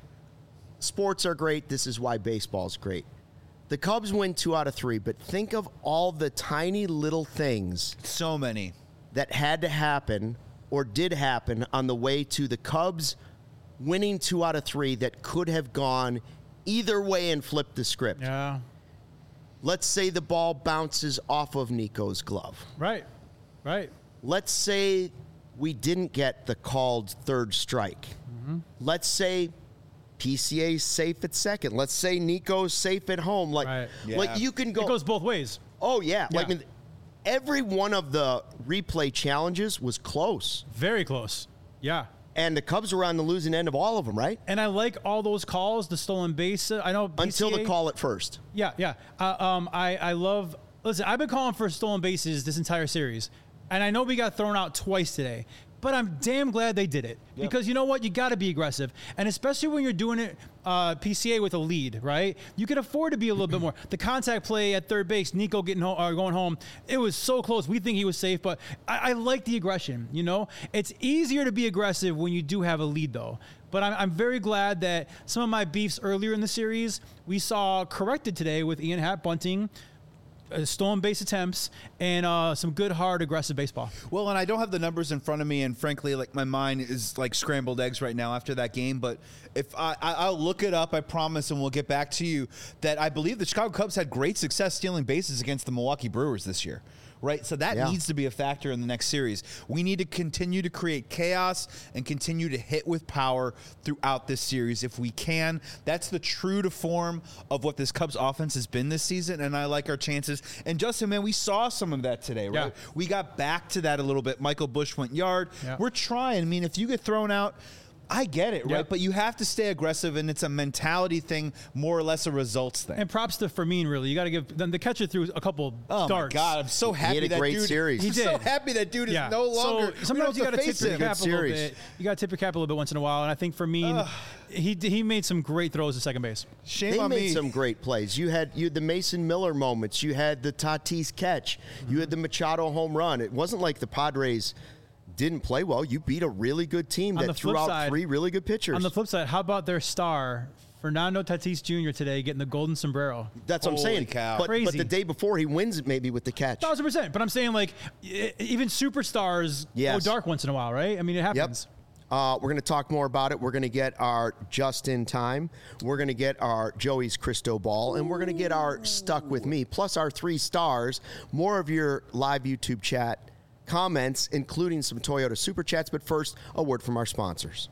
sports are great. This is why baseball's great. The Cubs win two out of three, but think of all the tiny little things So many. that had to happen or did happen on the way to the Cubs winning two out of three that could have gone either way and flipped the script. Yeah. Let's say the ball bounces off of Nico's glove. Right. Right. Let's say we didn't get the called third strike. Mm-hmm. Let's say P C A's safe at second. Let's say Nico's safe at home. Like, Right. like Yeah. you can go. It goes both ways. oh yeah. Like Yeah. I mean, every one of the replay challenges was close, Very close. Yeah. and the Cubs were on the losing end of all of them, right? And I like all those calls, the stolen base. I know P C A, Until the call at first. Yeah, yeah. Uh, um, I, I love. Listen, I've been calling for stolen bases this entire series, and I know we got thrown out twice today. But I'm damn glad they did it because you know what? You got to be aggressive, and especially when you're doing it uh, P C A with a lead, right? You can afford to be a little bit more. The contact play at third base, Nico getting home, uh, going home, it was so close. We think he was safe, but I, I like the aggression. You know, it's easier to be aggressive when you do have a lead, though. But I'm, I'm very glad that some of my beefs earlier in the series we saw corrected today with Ian Happ bunting. Uh, stolen base attempts and uh, some good, hard, aggressive baseball. Well, and I don't have the numbers in front of me, and frankly, like my mind is like scrambled eggs right now after that game. But if I, I I'll look it up, I promise, and we'll get back to you. That I believe the Chicago Cubs had great success stealing bases against the Milwaukee Brewers this year. Right, so that Yeah. needs to be a factor in the next series. We need to continue to create chaos and continue to hit with power throughout this series if we can. That's the true to form of what this Cubs offense has been this season, and I like our chances. And Justin, man, we saw some of that today, right? Yeah. We got back to that a little bit. Michael Busch went yard. Yeah. We're trying. I mean, if you get thrown out, I get it, right? Yeah. But you have to stay aggressive, and it's a mentality thing, more or less a results thing. And props to Fermin, really. You got to give them the catcher through a couple Oh darts. my God! I'm so happy had a that great dude. series. He I'm so did. happy that dude is Yeah. no longer. So sometimes you got to tip face your him. cap a little series. bit. You got to tip your cap a little bit once in a while. And I think Fermin, he he made some great throws at second base. Shame They on made me. some great plays. You had you had the Mason Miller moments. You had the Tatis catch. You had the Machado home run. It wasn't like the Padres didn't play well. You beat a really good team On that the threw flip out side- three really good pitchers. On the flip side, how about their star, Fernando Tatis Junior today getting the golden sombrero? That's what I'm Holy saying. cow. But, but Crazy. the day before, he wins it maybe with the catch. Thousand percent. But I'm saying like e- even superstars Yes. go dark once in a while, right? I mean, it Yep. happens. Uh, we're going to talk more about it. We're going to get our just in time. We're going to get our Joey's Crystal Ball, and we're going to get our Stuck With Me, plus our three stars. More of your live YouTube chat comments, including some Toyota Super Chats. But first, a word from our sponsors.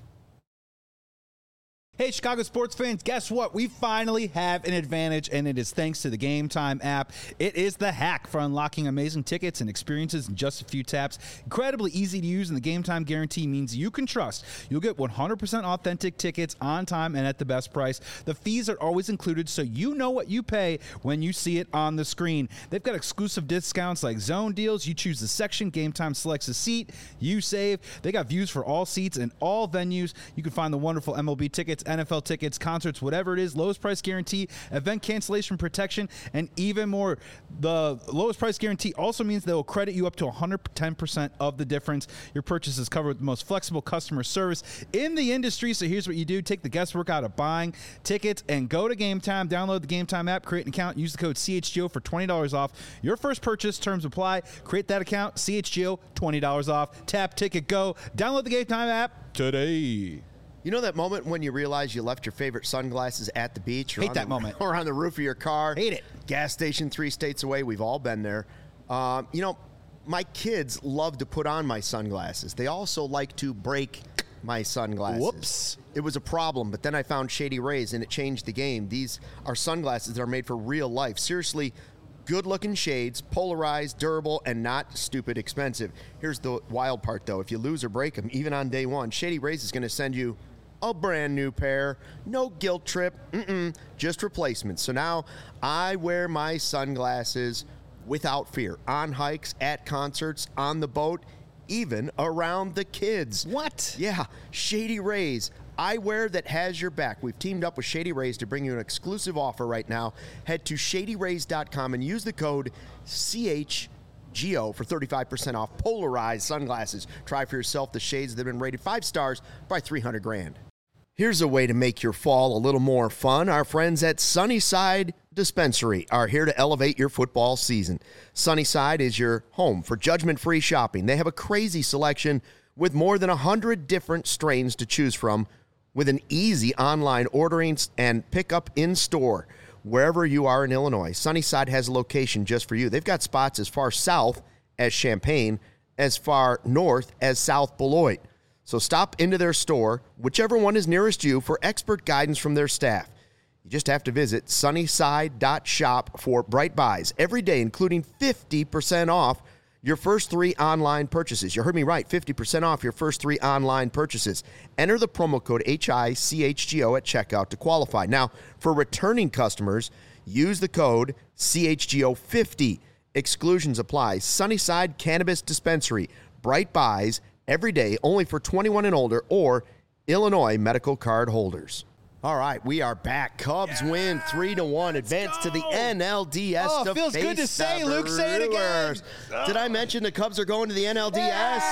Hey, Chicago sports fans, guess what? We finally have an advantage, and it is thanks to the Game Time app. It is the hack for unlocking amazing tickets and experiences in just a few taps. Incredibly easy to use, and the Game Time guarantee means you can trust you'll get one hundred percent authentic tickets on time and at the best price. The fees are always included, so you know what you pay when you see it on the screen. They've got exclusive discounts like zone deals. You choose the section, Game Time selects a seat, you save. They got views for all seats and all venues. You can find the wonderful M L B tickets, N F L tickets, concerts, whatever it is, lowest price guarantee, event cancellation protection, and even more. The lowest price guarantee also means they will credit you up to one hundred ten percent of the difference. Your purchase is covered with the most flexible customer service in the industry. So here's what you do. Take the guesswork out of buying tickets and go to Game Time. Download the Game Time app, create an account, use the code C H G O for twenty dollars off your first purchase. Terms apply. Create that account, C H G O, twenty dollars off. Tap, ticket, go. Download the Game Time app today. You know that moment when you realize you left your favorite sunglasses at the beach? Or Hate on that the, moment. Or on the roof of your car. Hate it. Gas station three states away. We've all been there. Um, you know, my kids love to put on my sunglasses. They also like to break my sunglasses. Whoops. It was a problem, but then I found Shady Rays, and it changed the game. These are sunglasses that are made for real life. Seriously, good-looking shades, polarized, durable, and not stupid expensive. Here's the wild part, though. If you lose or break them, even on day one, Shady Rays is going to send you a brand new pair. No guilt trip. Mm-mm, just replacements. So now I wear my sunglasses without fear. On hikes, at concerts, on the boat, even around the kids. What? Yeah, Shady Rays. Eyewear that has your back. We've teamed up with Shady Rays to bring you an exclusive offer right now. Head to shady rays dot com and use the code C H G O for thirty-five percent off polarized sunglasses. Try for yourself the shades that have been rated five stars by three hundred grand. Here's a way to make your fall a little more fun. Our friends at Sunnyside Dispensary are here to elevate your football season. Sunnyside is your home for judgment-free shopping. They have a crazy selection with more than one hundred different strains to choose from, with an easy online ordering and pickup in store wherever you are in Illinois. Sunnyside has a location just for you. They've got spots as far south as Champaign, as far north as South Beloit. So stop into their store, whichever one is nearest you, for expert guidance from their staff. You just have to visit sunnyside dot shop for Bright Buys every day, including fifty percent off your first three online purchases. You heard me right, fifty percent off your first three online purchases. Enter the promo code H I C H G O at checkout to qualify. Now, for returning customers, use the code C H G O fifty. Exclusions apply. Sunnyside Cannabis Dispensary. Bright Buys every day, only for twenty-one and older or Illinois medical card holders. All right, we are back. Cubs yeah, win three to one, advance to the N L D S. Oh, to feels face good to say, the Luke. Say it again. Brewers. Did I mention the Cubs are going to the N L D S?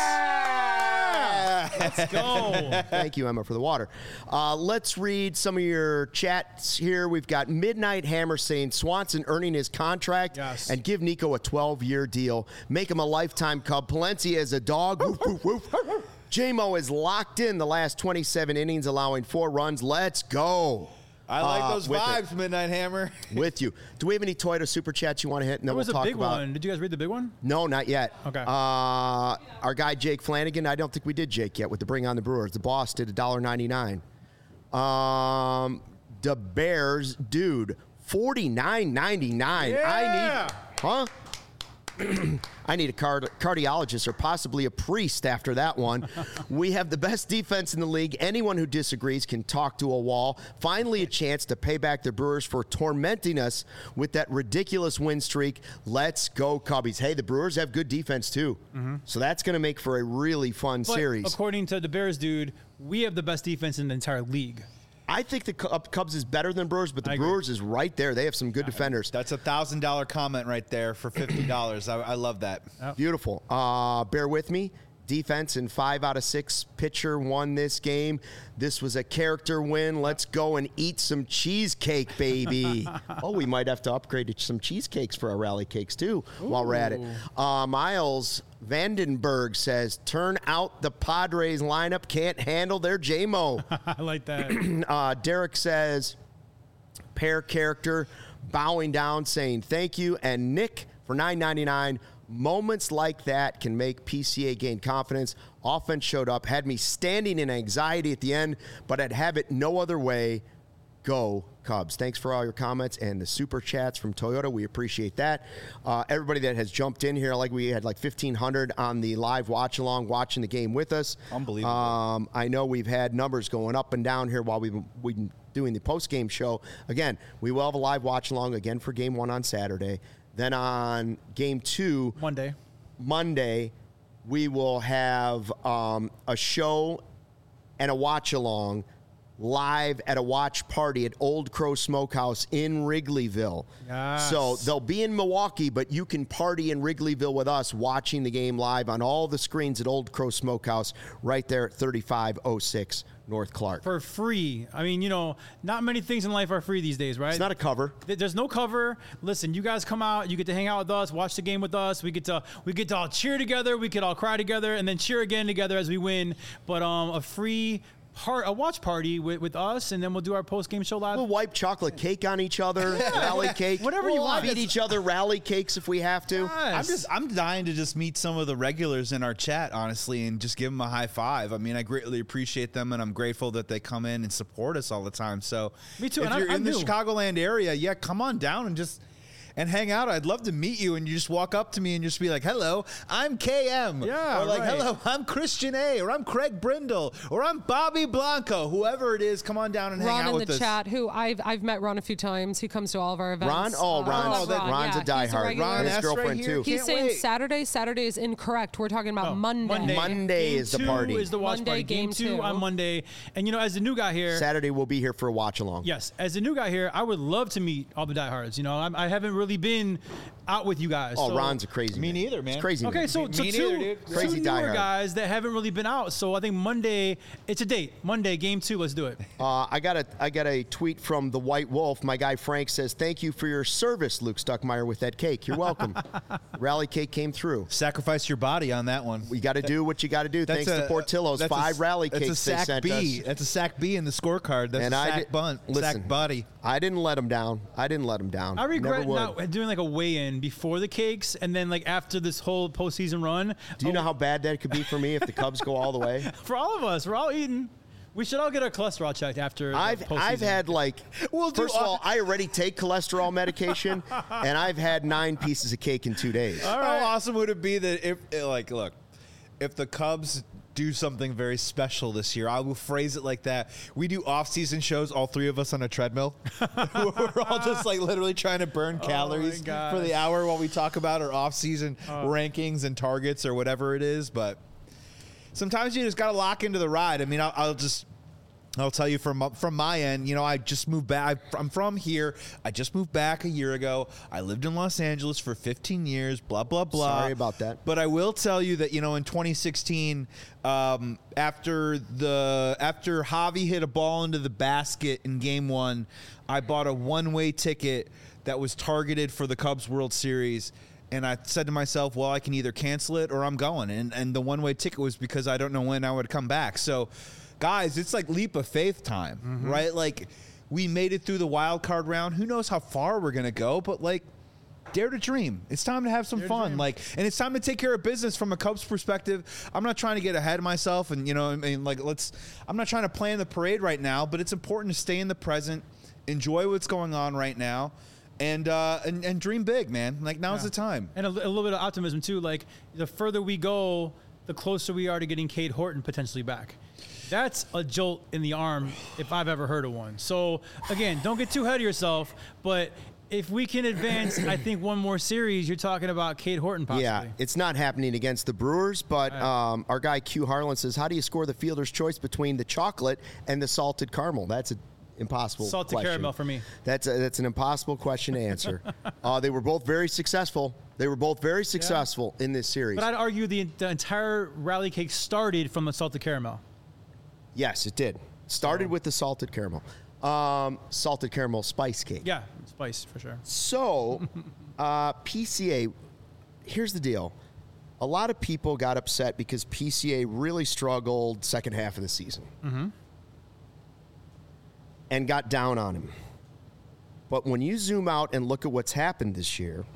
Yeah! Let's go. Thank you, Emma, for the water. Uh, let's read some of your chats here. We've got Midnight Hammer saying Swanson earning his contract yes. and give Nico a twelve-year deal. Make him a lifetime Cub. Palencia is a dog. Woof, woof, woof. J-Mo is locked in the last twenty-seven innings, allowing four runs. Let's go. I like Uh, those with vibes, it. Midnight Hammer. With you. Do we have any Toyota Super Chats you want to hit? And That then was we'll a talk big about one. Did you guys read the big one? No, not yet. Okay. Uh, our guy Jake Flanagan, I don't think we did Jake yet with the Bring on the Brewers. The boss did one dollar ninety-nine. Um, the Bears, dude, forty-nine ninety-nine. Yeah. I need, huh? I need a card- cardiologist or possibly a priest after that one. We have the best defense in the league. Anyone who disagrees can talk to a wall. Finally, a chance to pay back the Brewers for tormenting us with that ridiculous win streak. Let's go, Cubbies. Hey, the Brewers have good defense, too. Mm-hmm. So that's going to make for a really fun But series. according to the Bears dude, we have the best defense in the entire league. I think the Cubs is better than Brewers, but the I agree. Brewers is right there. They have some good defenders. That's a thousand dollar comment right there for fifty dollars. I, I love that. Beautiful. Uh, bear with me. defense and five out of six pitcher won this game. This was a character win. Let's go and eat some cheesecake, baby. Oh, we might have to upgrade to some cheesecakes for our rally cakes, too, Ooh. while we're at it. Uh, Miles Vandenberg says, turn out the Padres lineup. Can't handle their J M O. I like that. uh, Derek says, pair character, bowing down, saying thank you. And Nick for nine ninety-nine. Moments like that can make P C A gain confidence. Offense showed up, had me standing in anxiety at the end, but I'd have it no other way. Go Cubs. Thanks for all your comments and the super chats from Toyota. We appreciate that. Uh, everybody that has jumped in here, like we had like fifteen hundred on the live watch along, watching the game with us. Unbelievable. Um, I know we've had numbers going up and down here while we've been, we've been doing the post-game show. Again, we will have a live watch along again for game one on Saturday. Then on game two, Monday, Monday, we will have um, a show and a watch along live at a watch party at Old Crow Smokehouse in Wrigleyville. Yes. So they'll be in Milwaukee, but you can party in Wrigleyville with us watching the game live on all the screens at Old Crow Smokehouse right there at thirty-five oh six North Clark. For free. I mean, you know, not many things in life are free these days, right? It's not a cover. There's no cover. Listen, you guys come out, you get to hang out with us, watch the game with us. We get to we get to all cheer together, we could all cry together, and then cheer again together as we win. But um, a free part, a watch party with, with us, and then we'll do our post game show live. We'll wipe chocolate cake on each other, rally cake, whatever you we'll want. Feed each other rally cakes if we have to. Yes. I'm just I'm dying to just meet some of the regulars in our chat, honestly, and just give them a high five. I mean, I greatly appreciate them, and I'm grateful that they come in and support us all the time. So, Me too, If and you're I'm- in I'm the new. Chicagoland area, yeah, come on down and just. And hang out. I'd love to meet you, and you just walk up to me and just be like, "Hello, I'm K M." Yeah, or like, right. "Hello, I'm Christian A." Or I'm Craig Brindle. Or I'm Bobby Blanco. Whoever it is, come on down and hang Ron out in with the us. chat, who I've I've met Ron a few times. He comes to all of our events. Ron? Oh, Uh, Ron's, oh, Ron, Ron's yeah. a diehard. regular. Ron and his S. right girlfriend, here. too. He's Can't saying wait. Saturday. Saturday is incorrect. We're talking about Oh, Monday. Monday. Monday Game is the two party. is the watch Monday, party. Game, game two two. on Monday. And, you know, as the new guy here, Saturday we'll be here for a watch along. yes, as a new guy here, I would love to meet all the diehards. You know, I'm, I haven't really been out with you guys. Oh, so- Ron's a crazy Me man. neither, man. It's crazy. Okay, man. so, Me- so me two, neither, dude. two Crazy newer diehard. guys that haven't really been out. So I think Monday, it's a date. Monday, game two, let's do it. Uh, I got a I got a tweet from the White Wolf. My guy Frank says, "Thank you for your service, Luke Stuckmeyer, with that cake. You're welcome." Rally cake came through. Sacrifice your body on that one. We got to do what you got to do. Thanks to Portillo's, that's a- five rally that's cakes a they sack sent B. us. That's a sack B in the scorecard. That's And a I sack did- bunt, listen, sack body. I didn't let him down. I didn't let him down. I regret Never would. not doing like a weigh-in before the cakes, and then like after this whole postseason run. Do you oh, know how bad that could be for me if the Cubs go all the way? For all of us, we're all eating. We should all get our cholesterol checked after. the I've postseason. I've had like We'll do first of all- all, I already take cholesterol medication, and I've had nine pieces of cake in two days. How awesome would it be that if, eh, like, look, if the Cubs do something very special this year, I will phrase it like that. We do off-season shows, all three of us on a treadmill. We're all just like literally trying to burn calories for gosh. the hour while we talk about our off-season rankings and targets or whatever it is. But sometimes you just got to lock into the ride. I mean, I'll, I'll just. I'll tell you from from my end, you know, I just moved back. I'm from here. I just moved back a year ago. I lived in Los Angeles for fifteen years, blah, blah, blah. Sorry about that. But I will tell you that, you know, in twenty sixteen, um, after the after Javi hit a ball into the basket in game one, I bought a one-way ticket that was targeted for the Cubs World Series. And I said to myself, well, I can either cancel it or I'm going. And, and the one-way ticket was because I don't know when I would come back. So, guys, it's like leap of faith time, Mm-hmm. right? Like, we made it through the wild card round. Who knows how far we're going to go? But, like, dare to dream. It's time to have some Dare to fun. dream. Like, and it's time to take care of business from a Cubs perspective. I'm not trying to get ahead of myself and, you know, I mean, like, let's, I'm not trying to plan the parade right now, but it's important to stay in the present, enjoy what's going on right now, and, uh, and, and dream big, man. Like, now's Yeah. the time. And a, li- a little bit of optimism too. Like the further we go, the closer we are to getting Cade Horton potentially back. That's a jolt in the arm if I've ever heard of one. So again, don't get too ahead of yourself. But if we can advance, I think one more series, you're talking about Cade Horton possibly. Yeah, it's not happening against the Brewers, but um, our guy Q Harlan says, "How do you score the fielder's choice between the chocolate and the salted caramel?" That's an impossible Salted question. caramel for me. That's a, that's an impossible question to answer. uh, they were both very successful. They were both very successful in this series. But I'd argue the, the entire rally cake started from the salted caramel. Yes, it did. Started with the salted caramel. Um, salted caramel spice cake. Yeah, spice for sure. So, uh, P C A, here's the deal. A lot of people got upset because P C A really struggled second half of the season. Mm-hmm. And got down on him. But when you zoom out and look at what's happened this year,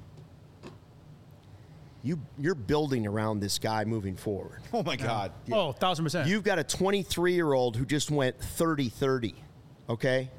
you, you're building around this guy moving forward. Oh, my God. Oh, one thousand percent. You've got a twenty-three-year-old who just went thirty thirty, okay?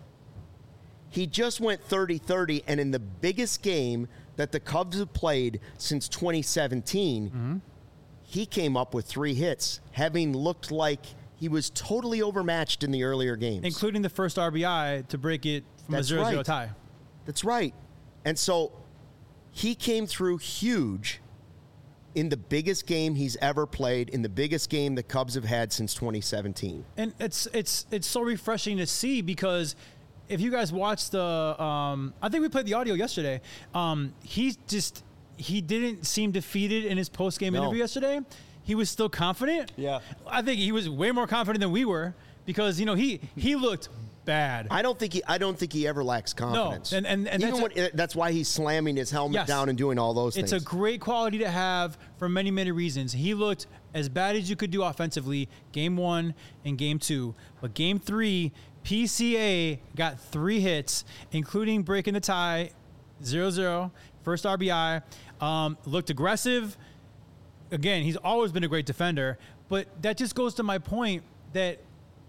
He just went thirty thirty, and in the biggest game that the Cubs have played since twenty seventeen, Mm-hmm. he came up with three hits, having looked like he was totally overmatched in the earlier games. Including the first R B I to break it from That's a zero zero right. tie. That's right. And so he came through huge in the biggest game he's ever played, in the biggest game the Cubs have had since twenty seventeen. And it's it's it's so refreshing to see because if you guys watched the, um, I think we played the audio yesterday. Um, he just he didn't seem defeated in his post game No. interview yesterday. He was still confident. Yeah. I think he was way more confident than we were because you know he he looked bad. I don't think he. I don't think he ever lacks confidence. and- and- and even that's when, that's why he's slamming his helmet Yes. down and doing all those It's things. a great quality to have for many, many reasons. He looked as bad as you could do offensively, game one and game two. But game three, P C A got three hits, including breaking the tie, zero zero, first R B I. Um, looked aggressive. Again, he's always been a great defender. But that just goes to my point that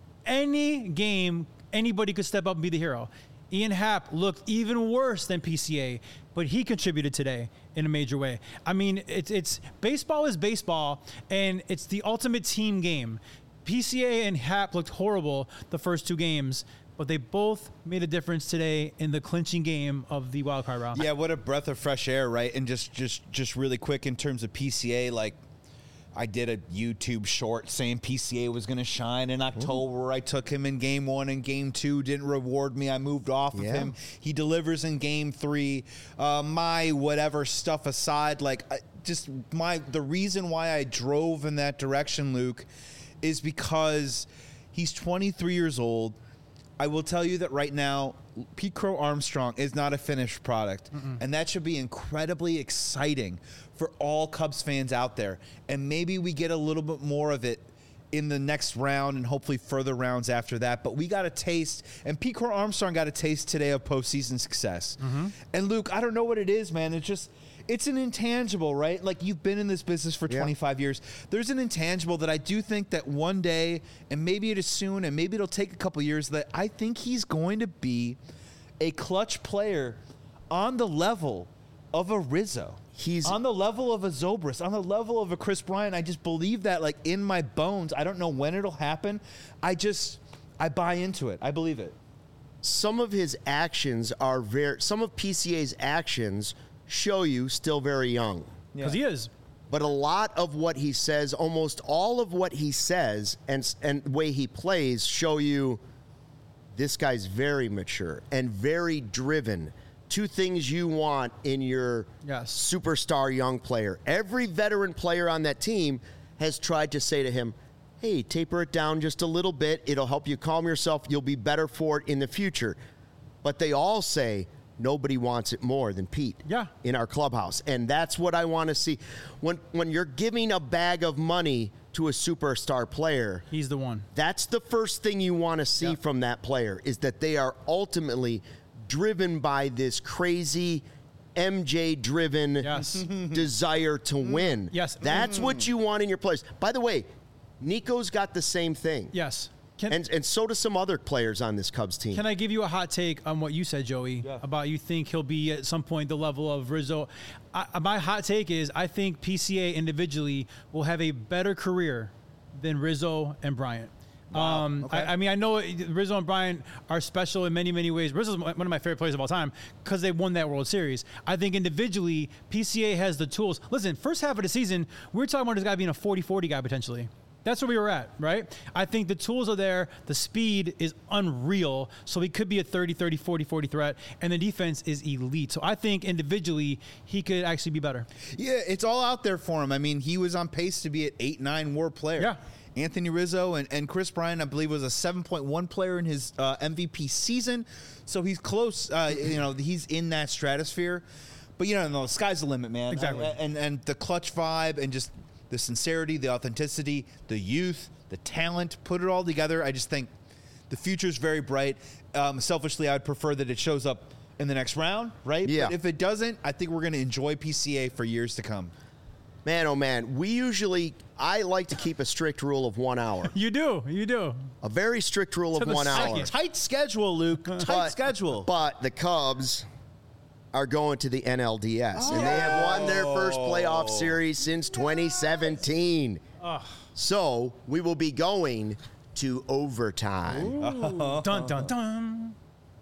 any game, anybody could step up and be the hero. Ian Happ looked even worse than P C A, but he contributed today in a major way. I mean, it's it's baseball is baseball, and it's the ultimate team game. P C A and Happ looked horrible the first two games, but they both made a difference today in the clinching game of the wild card round. Yeah, what a breath of fresh air, right? And just, just, just really quick in terms of P C A, like I did a YouTube short saying P C A was going to shine in October. Ooh. I took him in game one and game two, didn't reward me. I moved off Yeah. of him. He delivers in game three. Uh, my whatever stuff aside, like I, just my the reason why I drove in that direction, Luke, is because he's twenty-three years old. I will tell you that right now, Pete Crow Armstrong is not a finished product. Mm-mm. And that should be incredibly exciting for all Cubs fans out there. And maybe we get a little bit more of it in the next round and hopefully further rounds after that. But we got a taste, and Pete Crow Armstrong got a taste today of postseason success. Mm-hmm. And Luke, I don't know what it is, man. It's just... It's an intangible, right? Like, you've been in this business for twenty-five yeah. years. There's an intangible that I do think that one day, and maybe it is soon, and maybe it'll take a couple years, that I think he's going to be a clutch player on the level of a Rizzo. He's on the level of a Zobrist, on the level of a Chris Bryant. I just believe that, like, in my bones. I don't know when it'll happen. I just, I buy into it. I believe it. Some of his actions are very, some of P C A's actions show you still very young. Because yeah. he is. But a lot of what he says, almost all of what he says and and the way he plays show you this guy's very mature and very driven. Two things you want in your yes. superstar young player. Every veteran player on that team has tried to say to him, hey, taper it down just a little bit. It'll help you calm yourself. You'll be better for it in the future. But they all say, nobody wants it more than Pete yeah. in our clubhouse. And that's what I want to see. When when you're giving a bag of money to a superstar player, he's the one. That's the first thing you want to see yeah. from that player, is that they are ultimately driven by this crazy M J-driven yes. desire to win. Yes. That's mm. what you want in your players. By the way, Nico's got the same thing. Yes. Can, and and so do some other players on this Cubs team. Can I give you a hot take on what you said, Joey, yeah. about you think he'll be at some point the level of Rizzo? I, my hot take is I think P C A individually will have a better career than Rizzo and Bryant. Wow. Um, okay. I, I mean, I know Rizzo and Bryant are special in many, many ways. Rizzo's one of my favorite players of all time because they won that World Series. I think individually, P C A has the tools. Listen, first half of the season, we were talking about this guy being a forty forty guy potentially. That's where we were at, right? I think the tools are there. The speed is unreal. So he could be a thirty, thirty, forty, forty threat. And the defense is elite. So I think individually, he could actually be better. Yeah, it's all out there for him. I mean, he was on pace to be an eight nine WAR player. Yeah. Anthony Rizzo and, and Chris Bryant, I believe, was a seven point one player in his uh, M V P season. So he's close. Uh, you know, he's in that stratosphere. But, you know, no, the sky's the limit, man. Exactly. And, and, and the clutch vibe and just the sincerity, the authenticity, the youth, the talent, put it all together. I just think the future's very bright. Um, selfishly, I'd prefer that it shows up in the next round, right? Yeah. But if it doesn't, I think we're going to enjoy P C A for years to come. Man, oh man, we usually, I like to keep a strict rule of one hour. You do. You do. A very strict rule To of the one hour. second. Tight schedule, Luke. Tight But- schedule. But the Cubs are going to the N L D S, and they have won their first playoff series since twenty seventeen. So we will be going to overtime, Dun, dun, dun.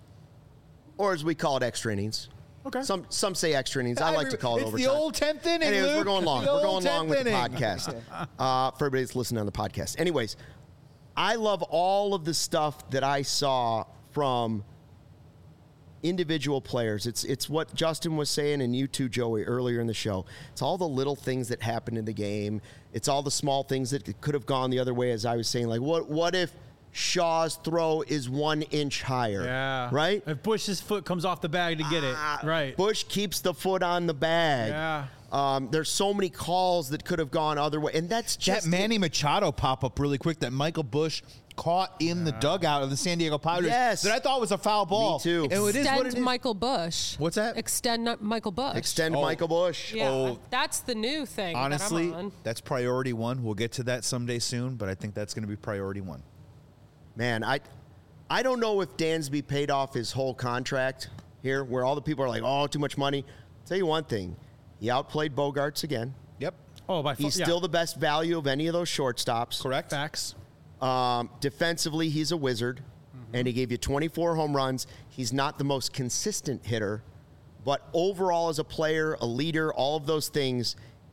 or as we call it, extra innings. Okay. Some some say extra innings. I like to call it it's overtime. the old tenth inning, Anyways, Luke. we're going long. The We're old going long with tenth the inning. podcast. Uh, for everybody that's listening on the podcast. Anyways, I love all of the stuff that I saw from individual players. It's it's what Justin was saying, and you too, Joey, earlier in the show. It's all the little things that happen in the game. It's all the small things that could have gone the other way, as I was saying. Like, what what if Shaw's throw is one inch higher? Yeah. Right? If Bush's foot comes off the bag to get it. Ah, Right. Bush keeps the foot on the bag. Yeah. Um, there's so many calls that could have gone other way, and that's That just Manny Machado pop up really quick that Michael Bush caught in the dugout of the San Diego Padres. Yes. That I thought was a foul ball. too. And it is what Extend it is. Michael Bush. What's that? Extend not Michael Bush. extend Oh. Michael Bush. Yeah, Oh. that's the new thing. that I'm Honestly, on. that's priority one. We'll get to that someday soon, but I think that's going to be priority one. Man, I, I don't know if Dansby paid off his whole contract here, where all the people are like, "Oh, too much money." I'll tell you one thing, he outplayed Bogarts again. Yep. Oh, by far. He's yeah. still the best value of any of those shortstops. Correct. Facts. Um, defensively, he's a wizard, and he gave you twenty-four home runs. He's not the most consistent hitter, but overall as a player, a leader, all of those things,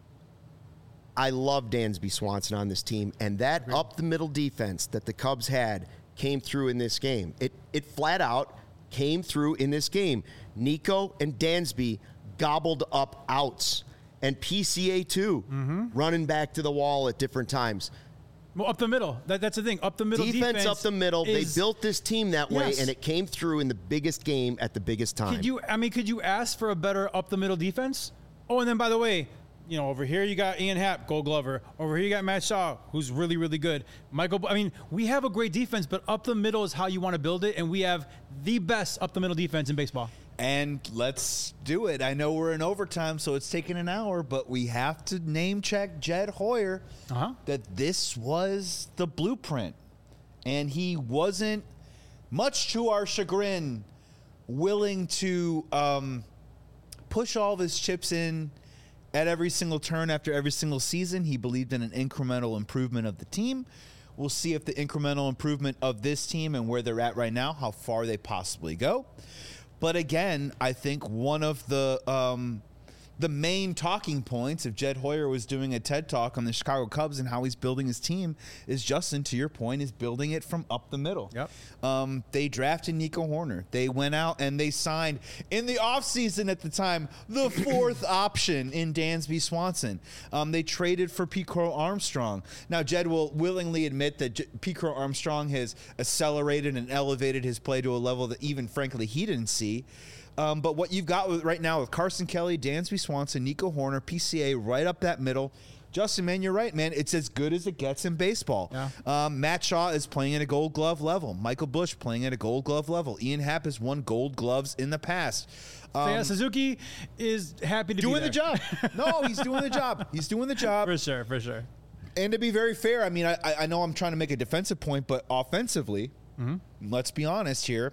I love Dansby Swanson on this team, and that up-the-middle defense that the Cubs had came through in this game. It, it flat out came through in this game. Nico and Dansby gobbled up outs, and P C A too, running back to the wall at different times. Well, up the middle. That, that's the thing. Up the middle Defense, defense up the middle. is- They built this team that way, Yes. and it came through in the biggest game at the biggest time. Could you? I mean, could you ask for a better up the middle defense? Oh, and then by the way, you know, over here you got Ian Happ, Gold Glover. Over here you got Matt Shaw, who's really, really good. Michael. I mean, we have a great defense, but up the middle is how you want to build it, and we have the best up the middle defense in baseball. And let's do it. I know we're in overtime, so it's taking an hour, but we have to name check Jed Hoyer Uh-huh. that this was the blueprint. And he wasn't, much to our chagrin, willing to um, push all of his chips in at every single turn after every single season. He believed in an incremental improvement of the team. We'll see if the incremental improvement of this team and where they're at right now, how far they possibly go. But again, I think one of the um, the main talking points, if Jed Hoyer was doing a TED Talk on the Chicago Cubs and how he's building his team, is Justin, to your point, is building it from up the middle. Yep. Um, they drafted Nico Horner. They went out and they signed, in the offseason at the time, the fourth option in Dansby Swanson. Um, they traded for Pete Crow Armstrong. Now, Jed will willingly admit that J- Pete Crow Armstrong has accelerated and elevated his play to a level that even, frankly, he didn't see. Um, but what you've got with, right now with Carson Kelly, Dansby Swanson, Nico Horner, P C A right up that middle. Justin, man, you're right, man. It's as good as it gets in baseball. Yeah. Um, Matt Shaw is playing at a gold glove level. Michael Bush playing at a gold glove level. Ian Happ has won gold gloves in the past. Um, So yeah, Suzuki is happy to doing be the job. No, he's doing the job. He's doing the job. for sure, for sure. And to be very fair, I mean, I, I know I'm trying to make a defensive point, but offensively, let's be honest here.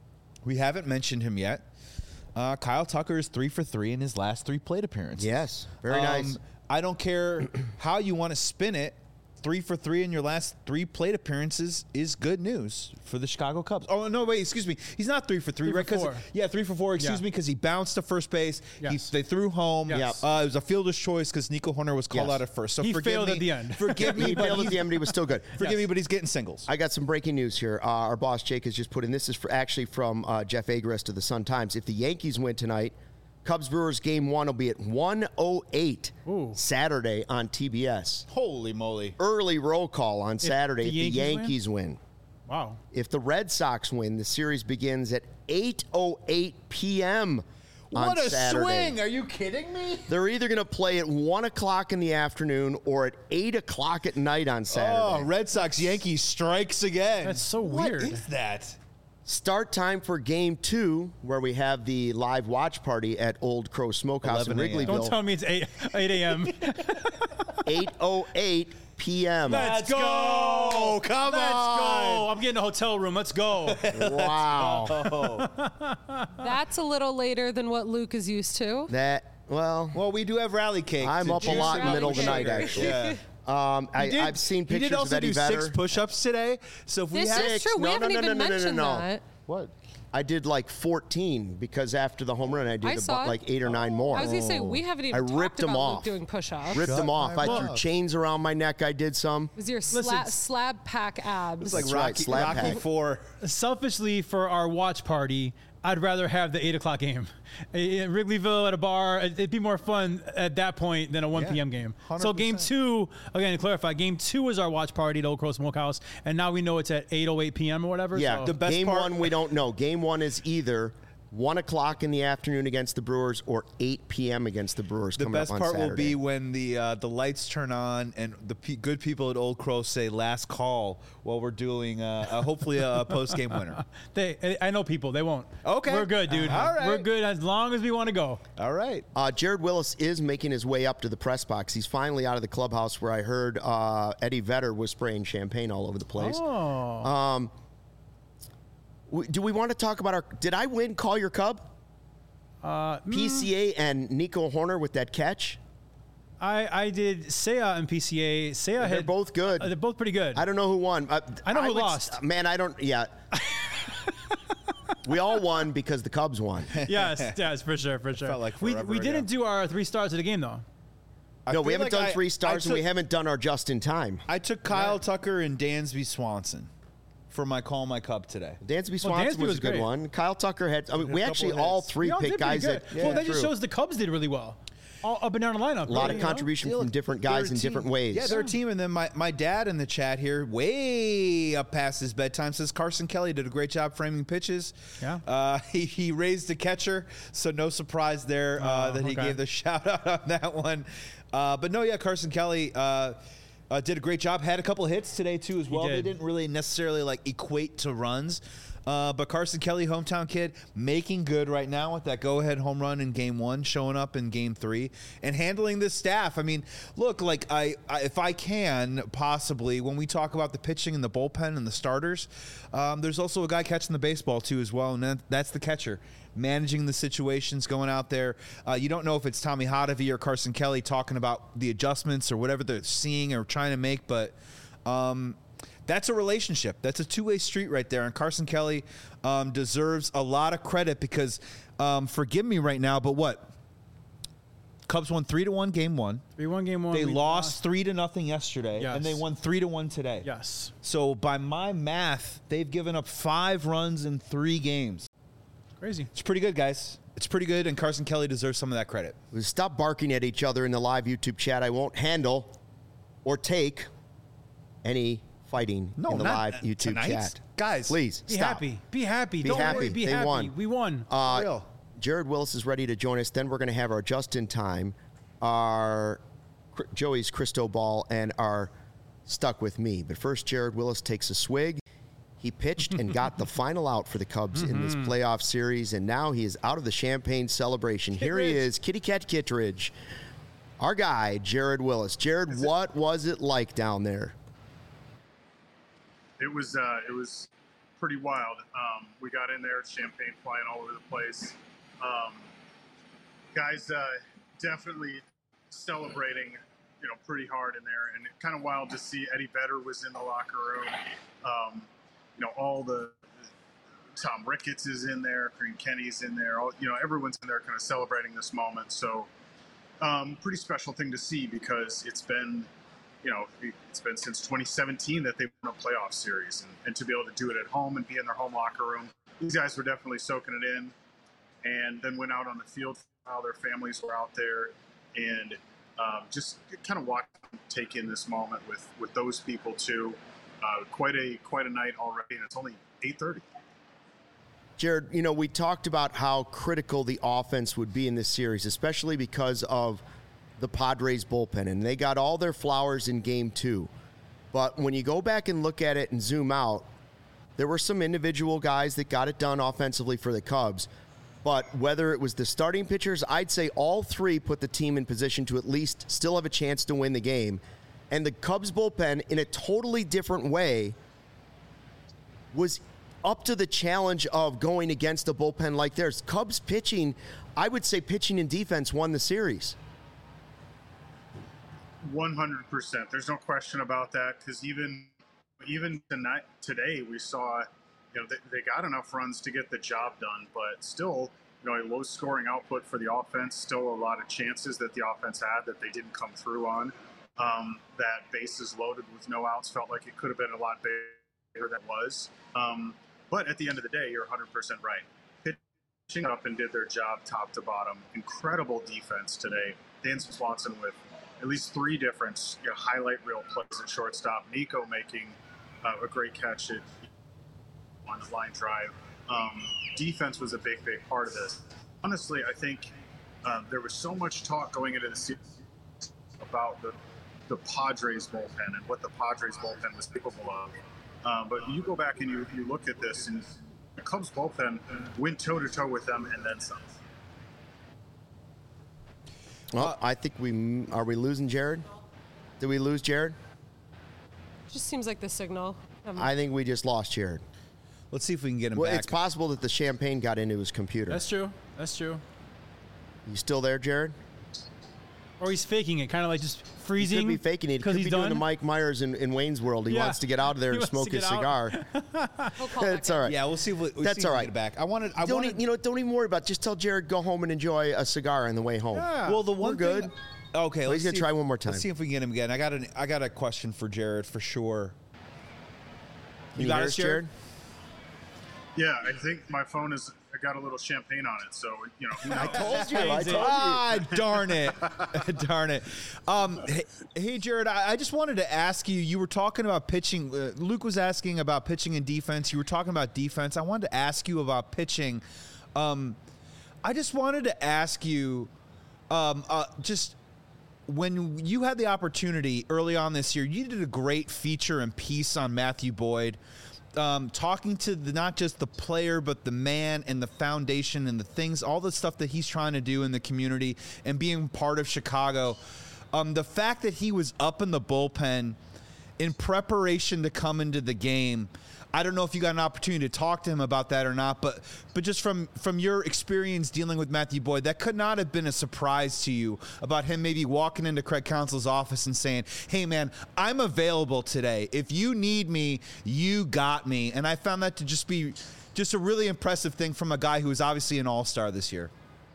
We haven't mentioned him yet. Uh, Kyle Tucker is three for three in his last three plate appearances. Yes, very Um, nice. I don't care how you want to spin it. three for three in your last three plate appearances is good news for the Chicago Cubs. Oh, no, wait, excuse me. He's not three for three, Three right? for 'Cause- four. Yeah, three for four, excuse Yeah. me, because he bounced to first base. Yes. He, they threw home. Yes. Uh, it was a fielder's choice because Nico Horner was called Yes. out at first. So He forgive failed me, at the end. Forgive me, He but failed at he's- the end, but he was still good. forgive Yes. me, but he's getting singles. I got some breaking news here. Uh, our boss Jake has just put in. This is for, actually from uh, Jeff Agrest of the Sun Times. If the Yankees win tonight, Cubs Brewers game one will be at one oh eight Saturday on T B S. Holy moly. Early roll call on Saturday the if the Yankees Yankees win. Wow. If the Red Sox win, the series begins at eight oh eight p.m. on What a Saturday. swing. Are you kidding me? They're either going to play at one o'clock in the afternoon or at eight o'clock at night on Saturday. Oh, Red Sox Yankees strikes again. That's so What weird. is that? Start time for game two, where we have the live watch party at Old Crow Smokehouse in eleven a.m. Don't Wrigleyville. tell me it's eight a.m. eight oh eight p.m. Let's go. go. Come Let's on. go. I'm getting a hotel room. Let's go. Wow. That's a little later than what Luke is used to. That, well, Well, we do have rally cake. I'm to up a juice lot it in the up middle of with the night, sugar. actually. Yeah. um, I, He did- I've seen He pictures did also of Eddie do Vedder. six push-ups today. So if we This have is true. We No, haven't no, no, even no, no, no, mentioned no. that. What? I did like fourteen because after the home run, I did I about saw it. like eight or nine more. I was gonna say we haven't even I ripped talked them about off. Luke doing push-ups. Ripped them off. my I threw love. chains around my neck. I did some. It was your Listen, sla- slab pack abs. It's like That's right, Rocky, slap Rocky pack. Four. Selfishly, for our watch party, I'd rather have the eight o'clock game. In Wrigleyville at a bar, it'd be more fun at that point than a one Yeah, p.m. game. one hundred So game percent. two, again, to clarify, game two is our watch party at Old Crow Smokehouse, and now we know it's at eight oh eight p.m. or whatever. Yeah, so. The best game part- one we don't know. Game one is either one o'clock in the afternoon against the Brewers or eight p.m. against the Brewers. The coming best up on part will Saturday. be when the uh, the lights turn on and the pe- good people at Old Crow say "last call" while we're doing uh, uh, hopefully a post game winner. They, I know people. They won't. Okay. We're good, dude. All right. We're good as long as we want to go. All right. Uh, Jared Willis is making his way up to the press box. He's finally out of the clubhouse where I heard uh, Eddie Vedder was spraying champagne all over the place. Oh. Um, w- do we want to talk about our? Did I win Call Your Cub? Uh, P C A and Nico Horner with that catch. I, I did Seiya and P C A. Seiya They're had both good. Uh, they're both pretty good. I don't know who won. Uh, I know who would s- lost. Man, I don't. Yeah. We all won because the Cubs won. yes, yes, for sure, for sure. Felt like we forever we didn't ago. do our three stars of the game though. I No, we feel haven't like done I- three I stars, and we took- haven't done our just in time. I took Kyle Tucker and Dansby Swanson for my call my Cub today. Dansby Well, Swanson Dansby was, was a good great. one. Kyle Tucker had. I mean, a we couple actually of all hits. three We all picked did pretty guys good. that. well, that just True. shows the Cubs did really well. All up and down the lineup. A lot really, of you know? contribution Yeah, from look, different they're guys a in team. different ways. Yeah, they're a team. And then my, my dad in the chat here, way up past his bedtime, says Carson Kelly did a great job framing pitches. Yeah. Uh, he, he raised the catcher, so no surprise there uh, Oh, that he okay. gave the shout out on that one. Uh, but no, yeah, Carson Kelly uh, uh, did a great job. Had a couple hits today too as well. They did. didn't really necessarily like equate to runs. Uh, but Carson Kelly, hometown kid, making good right now with that go-ahead home run in Game One, showing up in Game Three, and handling this staff. I mean, look, like I, I if I can possibly, when we talk about the pitching and the bullpen and the starters, um, there's also a guy catching the baseball too as well, and that, that's the catcher. Managing the situations, going out there. Uh, you don't know if it's Tommy Hotovy or Carson Kelly talking about the adjustments or whatever they're seeing or trying to make, but. Um, That's a relationship. That's a two-way street right there. And Carson Kelly um, deserves a lot of credit because, um, forgive me right now, but what? Cubs won three to one game one. We won game one. They we lost three to nothing yesterday, Yes. and they won three to one today. Yes. So by my math, they've given up five runs in three games. Crazy. It's pretty good, guys. It's pretty good, and Carson Kelly deserves some of that credit. Stop barking at each other in the live YouTube chat. I won't handle or take any fighting No, in the not live YouTube tonight. chat. Guys, Please, Be stop. happy. Be happy. Be Don't happy. worry. Be They happy. won. We won. Uh, real. Jared Willis is ready to join us. Then we're going to have our just in time, our Cr- Joey's Crystal Ball, and our Stuck With Me. But first, Jared Willis takes a swig. He pitched and got the final out for the Cubs in this playoff series, and now he is out of the champagne celebration. Here he Kittredge. is, Kitty Cat Kittredge, our guy, Jared Willis. Jared, what was it like down there? It was uh, it was pretty wild. Um, we got in there, champagne flying all over the place. Um, guys, uh, definitely celebrating you know, pretty hard in there, and kind of wild to see Eddie Vedder was in the locker room. Um, you know, all the Tom Ricketts is in there, Kareem Kenny's in there. All, you know, everyone's in there kind of celebrating this moment. So, um, pretty special thing to see because it's been, you know, it's been since twenty seventeen that they've won a playoff series, and, and to be able to do it at home and be in their home locker room, these guys were definitely soaking it in, and then went out on the field while their families were out there, and um, just kind of watch them take in this moment with with those people too. Uh, quite a quite a night already, and it's only eight thirty. Jared, you know, we talked about how critical the offense would be in this series, especially because of the Padres bullpen, and they got all their flowers in game two. But when you go back and look at it and zoom out, there were some individual guys that got it done offensively for the Cubs. But whether it was the starting pitchers, I'd say all three put the team in position to at least still have a chance to win the game. And the Cubs bullpen, in a totally different way, was up to the challenge of going against a bullpen like theirs. Cubs pitching, I would say pitching and defense won the series. one hundred percent. There's no question about that, because even even tonight, today, we saw, you know, they, they got enough runs to get the job done, but still, you know, a low scoring output for the offense, still a lot of chances that the offense had that they didn't come through on. Um, that bases loaded with no outs felt like it could have been a lot bigger than it was. Um, but at the end of the day, you're one hundred percent right. Pitching up and did their job top to bottom. Incredible defense today. Dan Swanson with at least three different, you know, highlight reel plays at shortstop. Nico making uh, a great catch at, on the line drive. Um, defense was a big, big part of this. Honestly, I think uh, there was so much talk going into the season about the the Padres bullpen and what the Padres bullpen was capable of. Um, but you go back and you, you look at this, and the Cubs bullpen went toe-to-toe with them and then some. Well, I think we are we losing Jared? Did we lose Jared? Just seems like the signal. Um, I think we just lost Jared. Let's see if we can get him Well, back. it's possible that the champagne got into his computer. That's true. That's true. You still there, Jared? Or he's faking it, kind of like just He freezing. could be faking it. He could he's be done. doing the Mike Myers in, in Wayne's World. He Yeah. wants to get out of there He and wants to smoke his get out. cigar. we'll call back It's in. all right. Yeah, we'll see if we, we'll That's see if all we right. get it back. I wanted. I Don't wanted. e- you know? Don't even worry about it. Just tell Jared go home and enjoy a cigar on the way home. Yeah. Well, the one We're good. thing- Okay, let's he's gonna see try if- one more time. Let's see if we can get him again. I got an. I got a question for Jared for sure. Can you got hear us, us, Jared? Yeah, I think my phone has got a little champagne on it, so, you know. Who knows? I told you. I told you. Ah, darn it, darn it. Um, hey, hey, Jared, I, I just wanted to ask you. You were talking about pitching. Uh, Luke was asking about pitching and defense. You were talking about defense. I wanted to ask you about pitching. Um, I just wanted to ask you, um, uh, just. When you had the opportunity early on this year, you did a great feature and piece on Matthew Boyd, um, talking to the, not just the player, but the man and the foundation and the things, all the stuff that he's trying to do in the community and being part of Chicago. Um, the fact that he was up in the bullpen in preparation to come into the game, I don't know if you got an opportunity to talk to him about that or not, but but just from, from your experience dealing with Matthew Boyd, that could not have been a surprise to you about him maybe walking into Craig Counsell's office and saying, hey, man, I'm available today. If you need me, you got me. And I found that to just be just a really impressive thing from a guy who is obviously an all-star this year.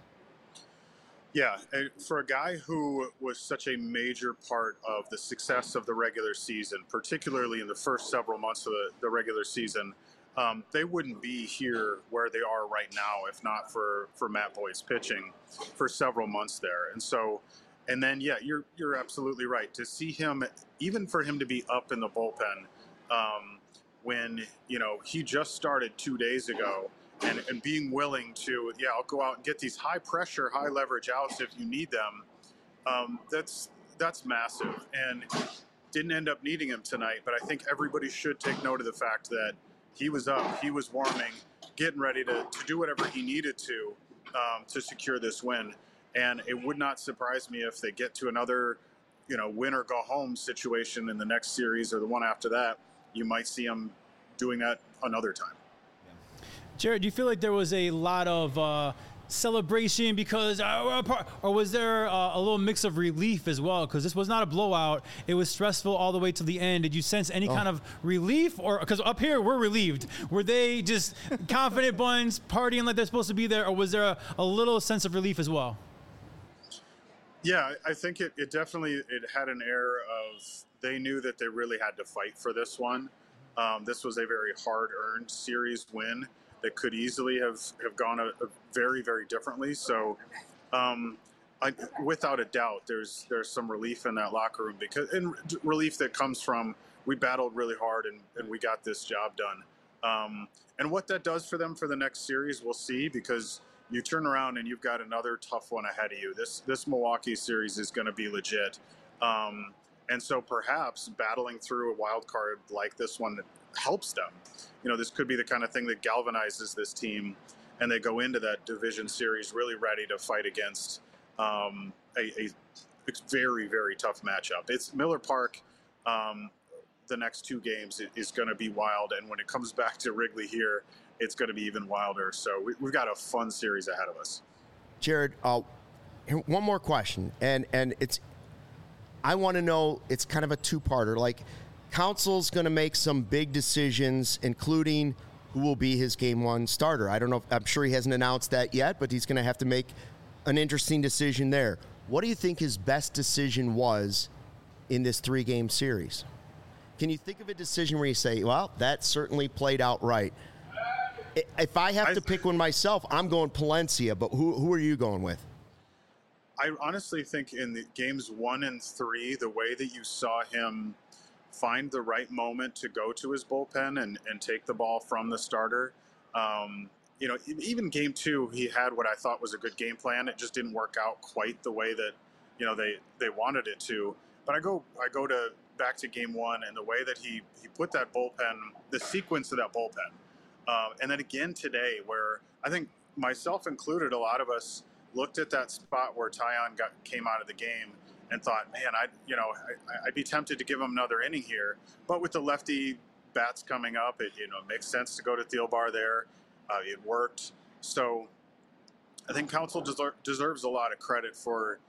Yeah, and for a guy who was such a major part of the success of the regular season, particularly in the first several months of the, the regular season, um, they wouldn't be here where they are right now if not for, for Matt Boyd's pitching for several months there. And so, and then, yeah, you're you're absolutely right. To see him, even for him to be up in the bullpen um, when, you know, he just started two days ago, And, and being willing to, yeah, I'll go out and get these high pressure, high leverage outs if you need them. Um, that's that's massive, and didn't end up needing him tonight. But I think everybody should take note of the fact that he was up, he was warming, getting ready to, to do whatever he needed to um, to secure this win. And it would not surprise me if they get to another, you know, win or go home situation in the next series or the one after that. You might see him doing that another time. Jared, do you feel like there was a lot of uh, celebration because, uh, or was there uh, a little mix of relief as well? Because this was not a blowout; it was stressful all the way to the end. Did you sense any oh. kind of relief, or because up here we're relieved? Were they just confident buns partying like they're supposed to be there, or was there a, a little sense of relief as well? Yeah, I think it, it definitely it had an air of they knew that they really had to fight for this one. Um, this was a very hard-earned series win that could easily have, have gone a, a very, very differently. So, um, I, without a doubt, there's there's some relief in that locker room because and relief that comes from we battled really hard and, and we got this job done. Um, and what that does for them for the next series, we'll see, because you turn around and you've got another tough one ahead of you. This this Milwaukee series is going to be legit. Um, and so perhaps battling through a wild card like this one helps them. You know, this could be the kind of thing that galvanizes this team, and they go into that division series really ready to fight against um, a, a very, very tough matchup. It's Miller Park. Um, the next two games is going to be wild, and when it comes back to Wrigley here, it's going to be even wilder. So we, we've got a fun series ahead of us. Jared, uh, one more question, and and it's I want to know. It's kind of a two-parter. Like, Council's going to make some big decisions, including who will be his game one starter. I don't know. I'm sure he hasn't announced that yet, but he's going to have to make an interesting decision there. What do you think his best decision was in this three-game series? Can you think of a decision where you say, well, that certainly played out right? If I have to pick one myself, I'm going Palencia, but who who are you going with? I honestly think in the games one and three, the way that you saw him find the right moment to go to his bullpen and, and take the ball from the starter. Um, you know, even game two, he had what I thought was a good game plan. It just didn't work out quite the way that, you know, they, they wanted it to. But I go I go to back to game one and the way that he, he put that bullpen, the sequence of that bullpen. Um, and then again today, where I think myself included, a lot of us looked at that spot where Taillon got came out of the game and thought, man, I'd, you know, I, I'd be tempted to give him another inning here. But with the lefty bats coming up, it, you know, makes sense to go to Thielbar there. Uh, it worked. So I think Council deser- deserves a lot of credit for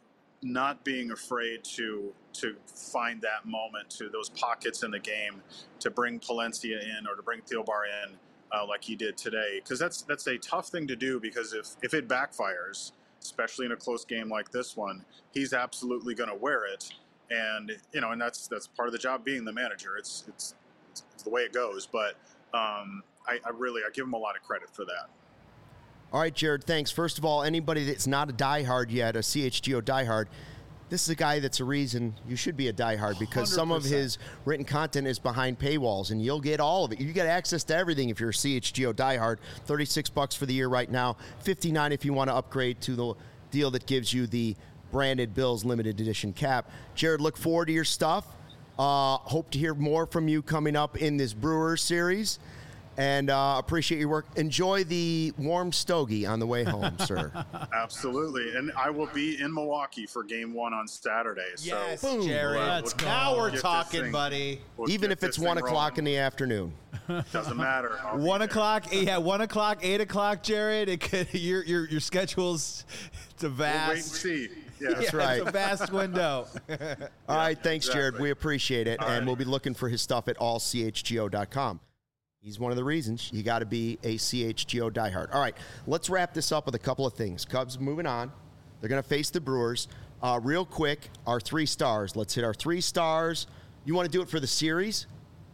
not being afraid to to find that moment, to those pockets in the game, to bring Palencia in or to bring Thielbar in uh, like he did today. Because that's that's a tough thing to do, because if, if it backfires, especially in a close game like this one, he's absolutely going to wear it. And, you know, and that's that's part of the job being the manager. It's it's, it's the way it goes. But um, I, I really, I give him a lot of credit for that. All right, Jared, thanks. First of all, anybody that's not a diehard yet, a C H G O diehard, this is a guy that's a reason you should be a diehard, because some of his written content is behind paywalls, and you'll get all of it. You get access to everything if you're a C H G O diehard. thirty-six bucks for the year right now, fifty-nine if you want to upgrade to the deal that gives you the branded Bills limited edition cap. Jared, look forward to your stuff. Uh, hope to hear more from you coming up in this Brewers series. And uh, appreciate your work. Enjoy the warm stogie on the way home, sir. Absolutely. And I will be in Milwaukee for game one on Saturday. Yes, so Jerry. we'll, Let's we'll, now we'll we're talking, thing, buddy. We'll Even if it's one o'clock rolling. in the afternoon. Doesn't matter. I'll one o'clock, yeah, one o'clock, eight o'clock, Jared. It could, your your your schedule's it's a vast. We'll wait and see. Yeah, that's yeah, right. It's a vast window. All right, thanks, exactly. Jared. We appreciate it, All and right. we'll be looking for his stuff at all c h g o dot com. He's one of the reasons you got to be a C H G O diehard. All right, let's wrap this up with a couple of things. Cubs moving on. They're going to face the Brewers. Uh, real quick, our three stars. Let's hit our three stars. You want to do it for the series?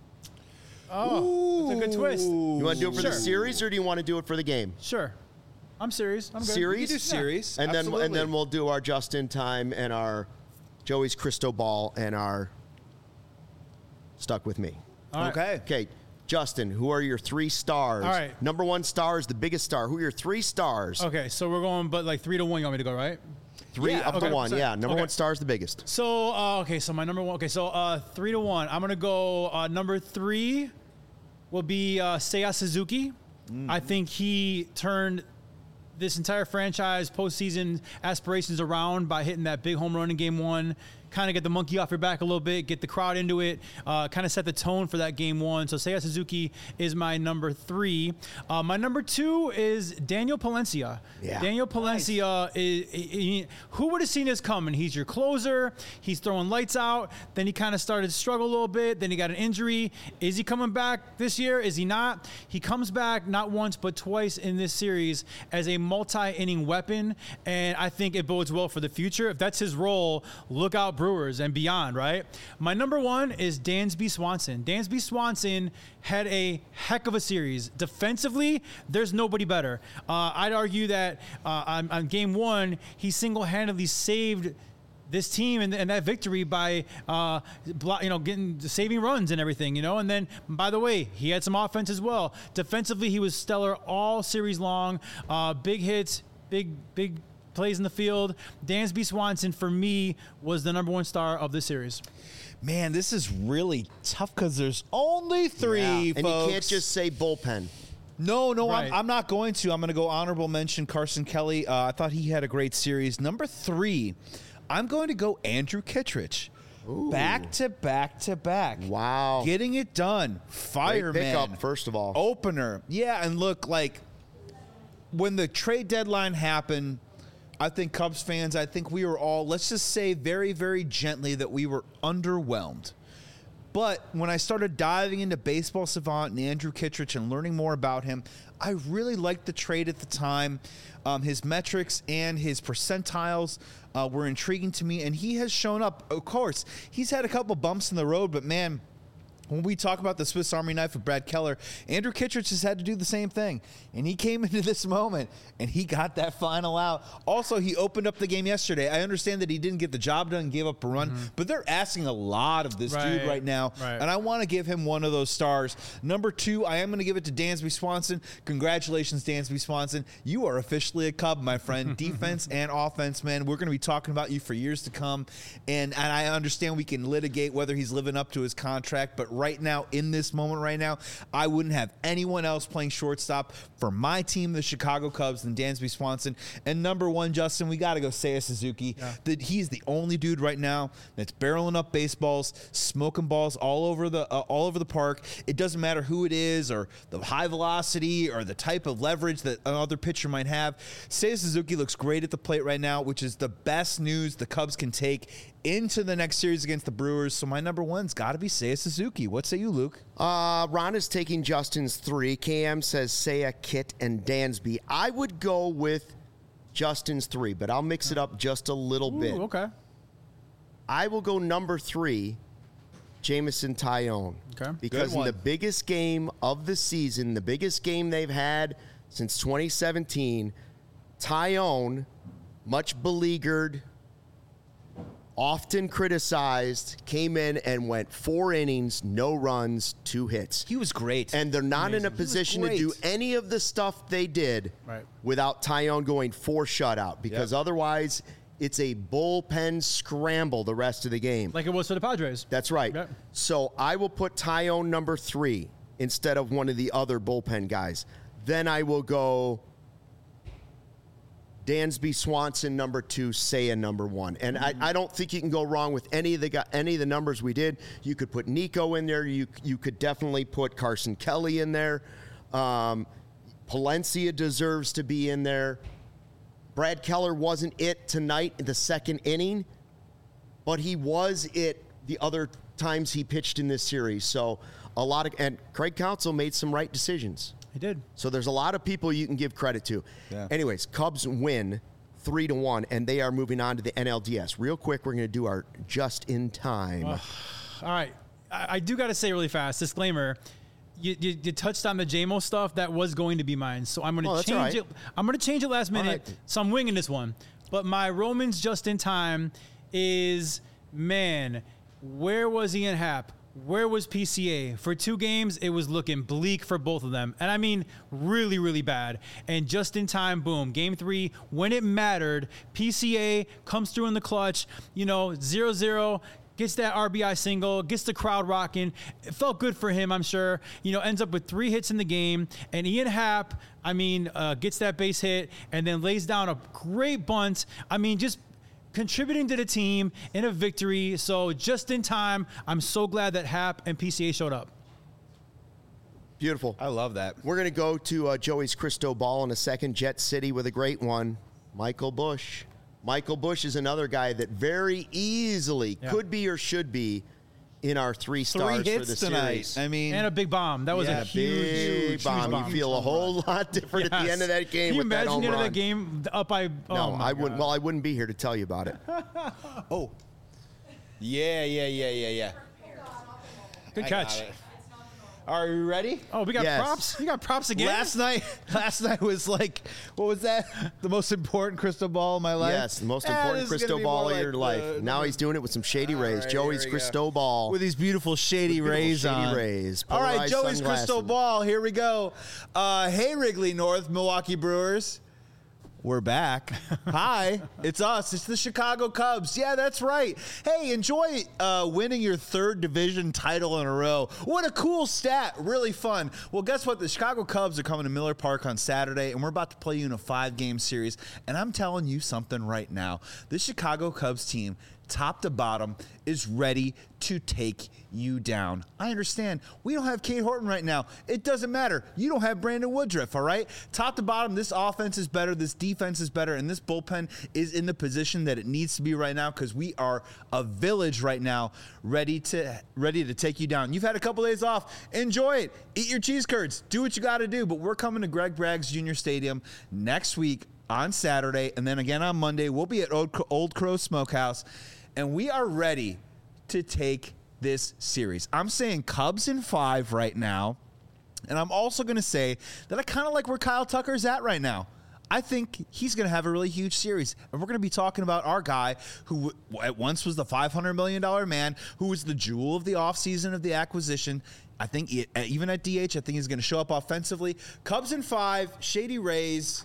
Oh, that's a good twist. You want to do it for Sure. the series, or do you want to do it for the game? Sure. I'm serious. I'm good. Series? You do series, And then absolutely. and then we'll do our just in time and our Joey's crystal ball and our stuck with me. All right. Okay. Okay, Justin, who are your three stars? All right. Number one star is the biggest star. Who are your three stars? Okay, so we're going, but like three to one. You want me to go, right? Three Yeah, up okay. to one. So- Yeah, number okay. one star is the biggest. So uh, okay, so my number one. Okay, so uh, three to one. I'm gonna go. Uh, number three will be uh, Seiya Suzuki. I think he turned this entire franchise postseason aspirations around by hitting that big home run in game one. kind of get the monkey off your back a little bit, get the crowd into it, uh, kind of set the tone for that game one. So Seiya Suzuki is my number three. Uh, my number two is Daniel Palencia. Yeah. Daniel Palencia, nice. is, he, who would have seen this coming? He's your closer. He's throwing lights out. Then he kind of started to struggle a little bit. Then he got an injury. Is he coming back this year? Is he not? He comes back not once but twice in this series as a multi-inning weapon, and I think it bodes well for the future. If that's his role, look out Brewers and beyond, right? My number one is Dansby Swanson. Dansby Swanson had a heck of a series. Defensively, there's nobody better. Uh, I'd argue that uh, on, on game one, he single-handedly saved this team and, and that victory by, uh, you know, getting saving runs and everything, you know. And then, by the way, he had some offense as well. Defensively, he was stellar all series long. Uh, big hits, big, big plays in the field. Dansby Swanson, for me, was the number one star of this series. Man, this is really tough because there's only three, yeah. folks. And you can't just say bullpen. No, no, Right. I'm, I'm not going to. I'm going to go honorable mention Carson Kelly. Uh, I thought he had a great series. Number three, I'm going to go Andrew Kittredge. Ooh. Back to back to back. Wow. Getting it done. Fireman. Great pickup, first of all. Opener. Yeah, and look, like, when the trade deadline happened, I think Cubs fans, I think we were all, let's just say very, very gently that we were underwhelmed. But when I started diving into Baseball Savant and Andrew Kittredge and learning more about him, I really liked the trade at the time. Um, his metrics and his percentiles uh, were intriguing to me, and he has shown up. Of course, he's had a couple bumps in the road, but man, when we talk about the Swiss Army knife of Brad Keller, Andrew Kittredge has had to do the same thing. And he came into this moment, and he got that final out. Also, he opened up the game yesterday. I understand that he didn't get the job done and gave up a run, mm-hmm. but they're asking a lot of this Right. dude right now. Right. And I want to give him one of those stars. Number two, I am going to give it to Dansby Swanson. Congratulations, Dansby Swanson. You are officially a Cub, my friend. Defense and offense, man. We're going to be talking about you for years to come. And, and I understand we can litigate whether he's living up to his contract, but right now, in this moment right now, I wouldn't have anyone else playing shortstop for my team, the Chicago Cubs, than Dansby Swanson. And number one, Justin, we got to go Seiya Suzuki. Yeah. That he's the only dude right now that's barreling up baseballs, smoking balls all over the uh, all over the park. It doesn't matter who it is or the high velocity or the type of leverage that another pitcher might have. Seiya Suzuki looks great at the plate right now, which is the best news the Cubs can take into the next series against the Brewers. So my number one's got to be Seiya Suzuki. What say you, Luke? Uh, Ron is taking Justin's three. K M says Seiya, Kit, and Dansby. I would go with Justin's three, but I'll mix it up just a little Ooh, bit. Okay. I will go number three, Jameson Taillon. Okay. Because Good in one. the biggest game of the season, the biggest game they've had since twenty seventeen, Taillon, much beleaguered, often criticized, came in and went four innings, no runs, two hits. He was great. And they're not in a He was position to great. do any of the stuff they did Right. without Taillon going four shutout, because Yep. otherwise it's a bullpen scramble the rest of the game. Like it was for the Padres. That's right. Yep. So I will put Taillon number three instead of one of the other bullpen guys. Then I will go Dansby Swanson number two, Seiya number one. And mm-hmm. I, I don't think you can go wrong with any of the any of the numbers we did. You could put Nico in there. You you could definitely put Carson Kelly in there. Um, Palencia deserves to be in there. Brad Keller wasn't it tonight in the second inning, but he was it the other times he pitched in this series. So a lot of and Craig Counsell made some right decisions. He did. So there's a lot of people you can give credit to. Yeah. Anyways, Cubs win three to one, and they are moving on to the N L D S. Real quick, we're going to do our just in time. All right. I, I do got to say really fast, disclaimer, you, you, you touched on the J M O stuff. That was going to be mine. So I'm going to Oh, that's change all right. it. I'm going to change it last minute. right. So I'm winging this one. But my Romans just in time is, man, where was Ian Happ? Where was P C A? For two games, it was looking bleak for both of them. And I mean, really, really bad. And just in time, boom, game three, when it mattered, P C A comes through in the clutch, you know, zero zero, gets that R B I single, gets the crowd rocking. It felt good for him, I'm sure. You know, ends up with three hits in the game. And Ian Happ, I mean, uh, gets that base hit and then lays down a great bunt. I mean, just contributing to the team in a victory. So just in time, I'm so glad that Hap and P C A showed up. Beautiful. I love that. We're going to go to uh, Joey's Crystal Ball in a second. Jet City with a great one. Michael Bush. Michael Bush is another guy that very easily Yeah. could be or should be in our three stars Three for the hits tonight. series. I mean, And a big bomb. That was Yeah, a huge, Big huge, bomb. huge bomb. You feel a whole lot different at the Yes. end of that game Can you with that imagine home the end of run. that game up by? Oh No, my I wouldn't. God. Well, I wouldn't be here to tell you about it. oh, yeah, yeah, yeah, yeah, yeah. Good I catch. got it. Are you ready? Oh, we got Yes. props. You got props again. Last night, last night was like, what was that? The most important crystal ball of my life. Yes, the most Eh, important this is crystal gonna be ball more of your like life. the- now he's doing it with some Shady Rays. right, Joey's here we go. Crystal Ball. with these beautiful shady With beautiful rays shady on. rays, All right, polarized Joey's sunglasses. crystal ball. Here we go. Uh, hey, Wrigley North, Milwaukee Brewers. We're back. Hi, it's us. It's the Chicago Cubs. Yeah, that's right. Hey, enjoy uh, winning your third division title in a row. What a cool stat. Really fun. Well, guess what? The Chicago Cubs are coming to Miller Park on Saturday, and we're about to play you in a five-game series. And I'm telling you something right now. This Chicago Cubs team, top to bottom, is ready to take you down. I understand. We don't have Kate Horton right now. It doesn't matter. You don't have Brandon Woodruff, all right? Top to bottom, this offense is better, this defense is better, and this bullpen is in the position that it needs to be right now because we are a village right now ready to ready to take you down. You've had a couple days off. Enjoy it. Eat your cheese curds. Do what you got to do. But we're coming to Greg Braggs Junior Stadium next week on Saturday, and then again on Monday. We'll be at Old, Old Crow Smokehouse, and we are ready to take this series. I'm saying Cubs in five right now, and I'm also going to say that I kind of like where Kyle Tucker's at right now. I think he's going to have a really huge series, and we're going to be talking about our guy who at once was the five hundred million dollars man, who was the jewel of the offseason of the acquisition. I think he, even at D H, I think he's going to show up offensively. Cubs in five, Shady Rays.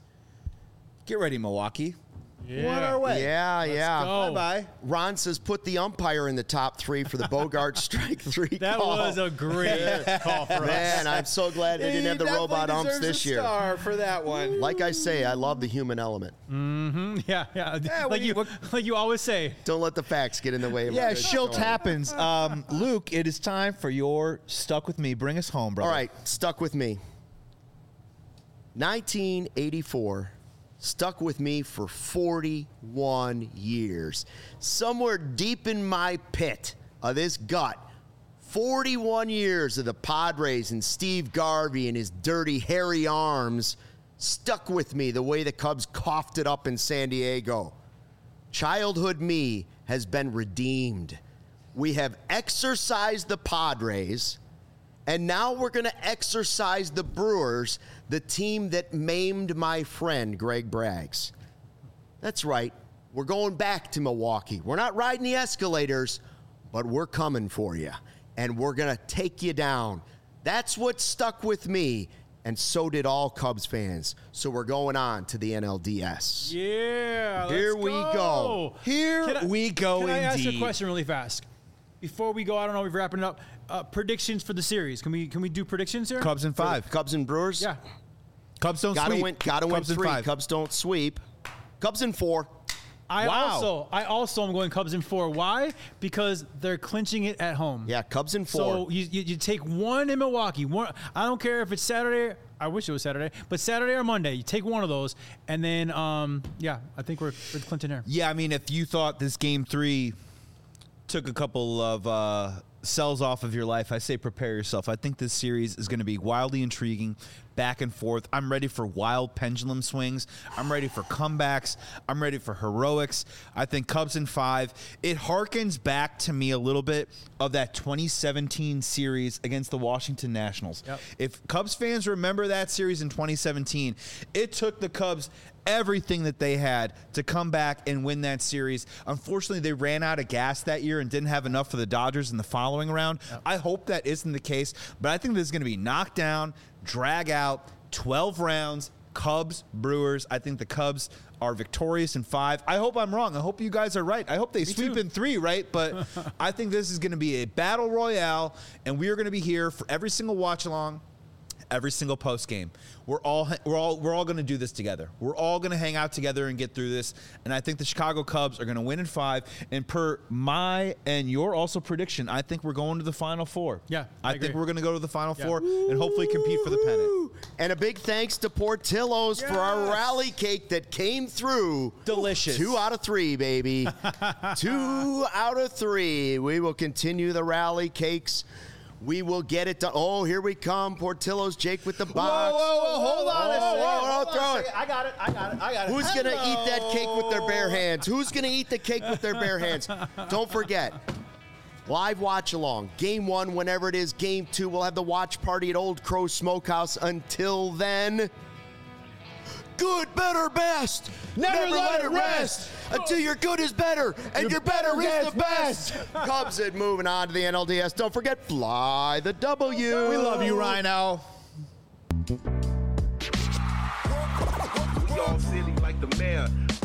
Get ready, Milwaukee. Yeah. We're on our way. Yeah, yeah. go. Bye-bye. Ron says put the umpire in the top three for the Bogart strike three That call. was a great call for us. Man, I'm so glad they didn't have the He robot definitely umps deserves this a year. star for that one. Like I say, I love the human element. Yeah, yeah. Yeah, like we- you, what- like you always say. Don't let the facts get in the way of Yeah, my good shilt story. happens. Um, Luke, it is time for your Stuck With Me. Bring us home, brother. All right, stuck with me. nineteen eighty-four stuck with me for forty-one years. Somewhere deep in my pit of this gut, forty-one years of the Padres and Steve Garvey and his dirty, hairy arms stuck with me the way the Cubs coughed it up in San Diego. Childhood me has been redeemed. We have exorcised the Padres, and now we're going to exorcise the Brewers, the team that maimed my friend, Greg Braggs. That's right. We're going back to Milwaukee. We're not riding the escalators, but we're coming for you, and we're going to take you down. That's what stuck with me, and so did all Cubs fans. So we're going on to the N L D S. Yeah. Here let's we go. Here Can I- we go Can I ask you a indeed. question really fast? Before we go, I don't know, we're wrapping it up. Uh, predictions for the series. Can we can we do predictions here? Cubs in five. Cubs and Brewers? Yeah. Cubs don't Gotta sweep. win, gotta win Cubs in three. five. Cubs don't sweep. Cubs in four. I Wow. also I also am going Cubs in four. Why? Because they're clinching it at home. Yeah, Cubs in four. So you, you you take one in Milwaukee. One. I don't care if it's Saturday. I wish it was Saturday, but Saturday or Monday, you take one of those, and then um yeah, I think we're we're clinching here. Yeah, I mean, if you thought this game three took a couple of uh, cells off of your life, I say prepare yourself. I think this series is going to be wildly intriguing, back and forth. I'm ready for wild pendulum swings. I'm ready for comebacks. I'm ready for heroics. I think Cubs in five. It harkens back to me a little bit of that twenty seventeen series against the Washington Nationals. Yep. If Cubs fans remember that series in twenty seventeen, it took the Cubs everything that they had to come back and win that series. Unfortunately, they ran out of gas that year and didn't have enough for the Dodgers in the following round. Yep. I hope that isn't the case, but I think this is going to be knocked down, drag out, twelve rounds, Cubs, Brewers. I think the Cubs are victorious in five. I hope I'm wrong. I hope you guys are right. I hope they sweep too. in three, right? But I think this is going to be a battle royale, and we are going to be here for every single watch along, every single post game. We're all we're all we're all going to do this together. We're all going to hang out together and get through this. And I think the Chicago Cubs are going to win in five. And per my and your also prediction, I think we're going to the Final Four. Yeah, I, I think agree. we're going to go to the Final Yeah. Four and hopefully compete for the pennant. And a big thanks to Portillo's for our Yes. rally cake that came through. Delicious. Two out of three, baby. Two out of three. We will continue the rally cakes. We will get it done. Oh, here we come. Portillo's Jake with the box. Whoa, whoa, whoa, hold on a Whoa, second. whoa, Hold whoa, on a throw it. second. I got it, I got it, I got it. Who's going to Hello. eat that cake with their bare hands? Who's going to eat the cake with their bare hands? Don't forget, live watch along. Game one, whenever it is. Game two, we'll have the watch party at Old Crow Smokehouse. Until then, good, better, best. Never let it rest. Until your good is better and your, Your better, better is gets the best. Cubs and moving on to the N L D S. Don't forget, fly the W. We love you, Rhino. We all silly like the mayor.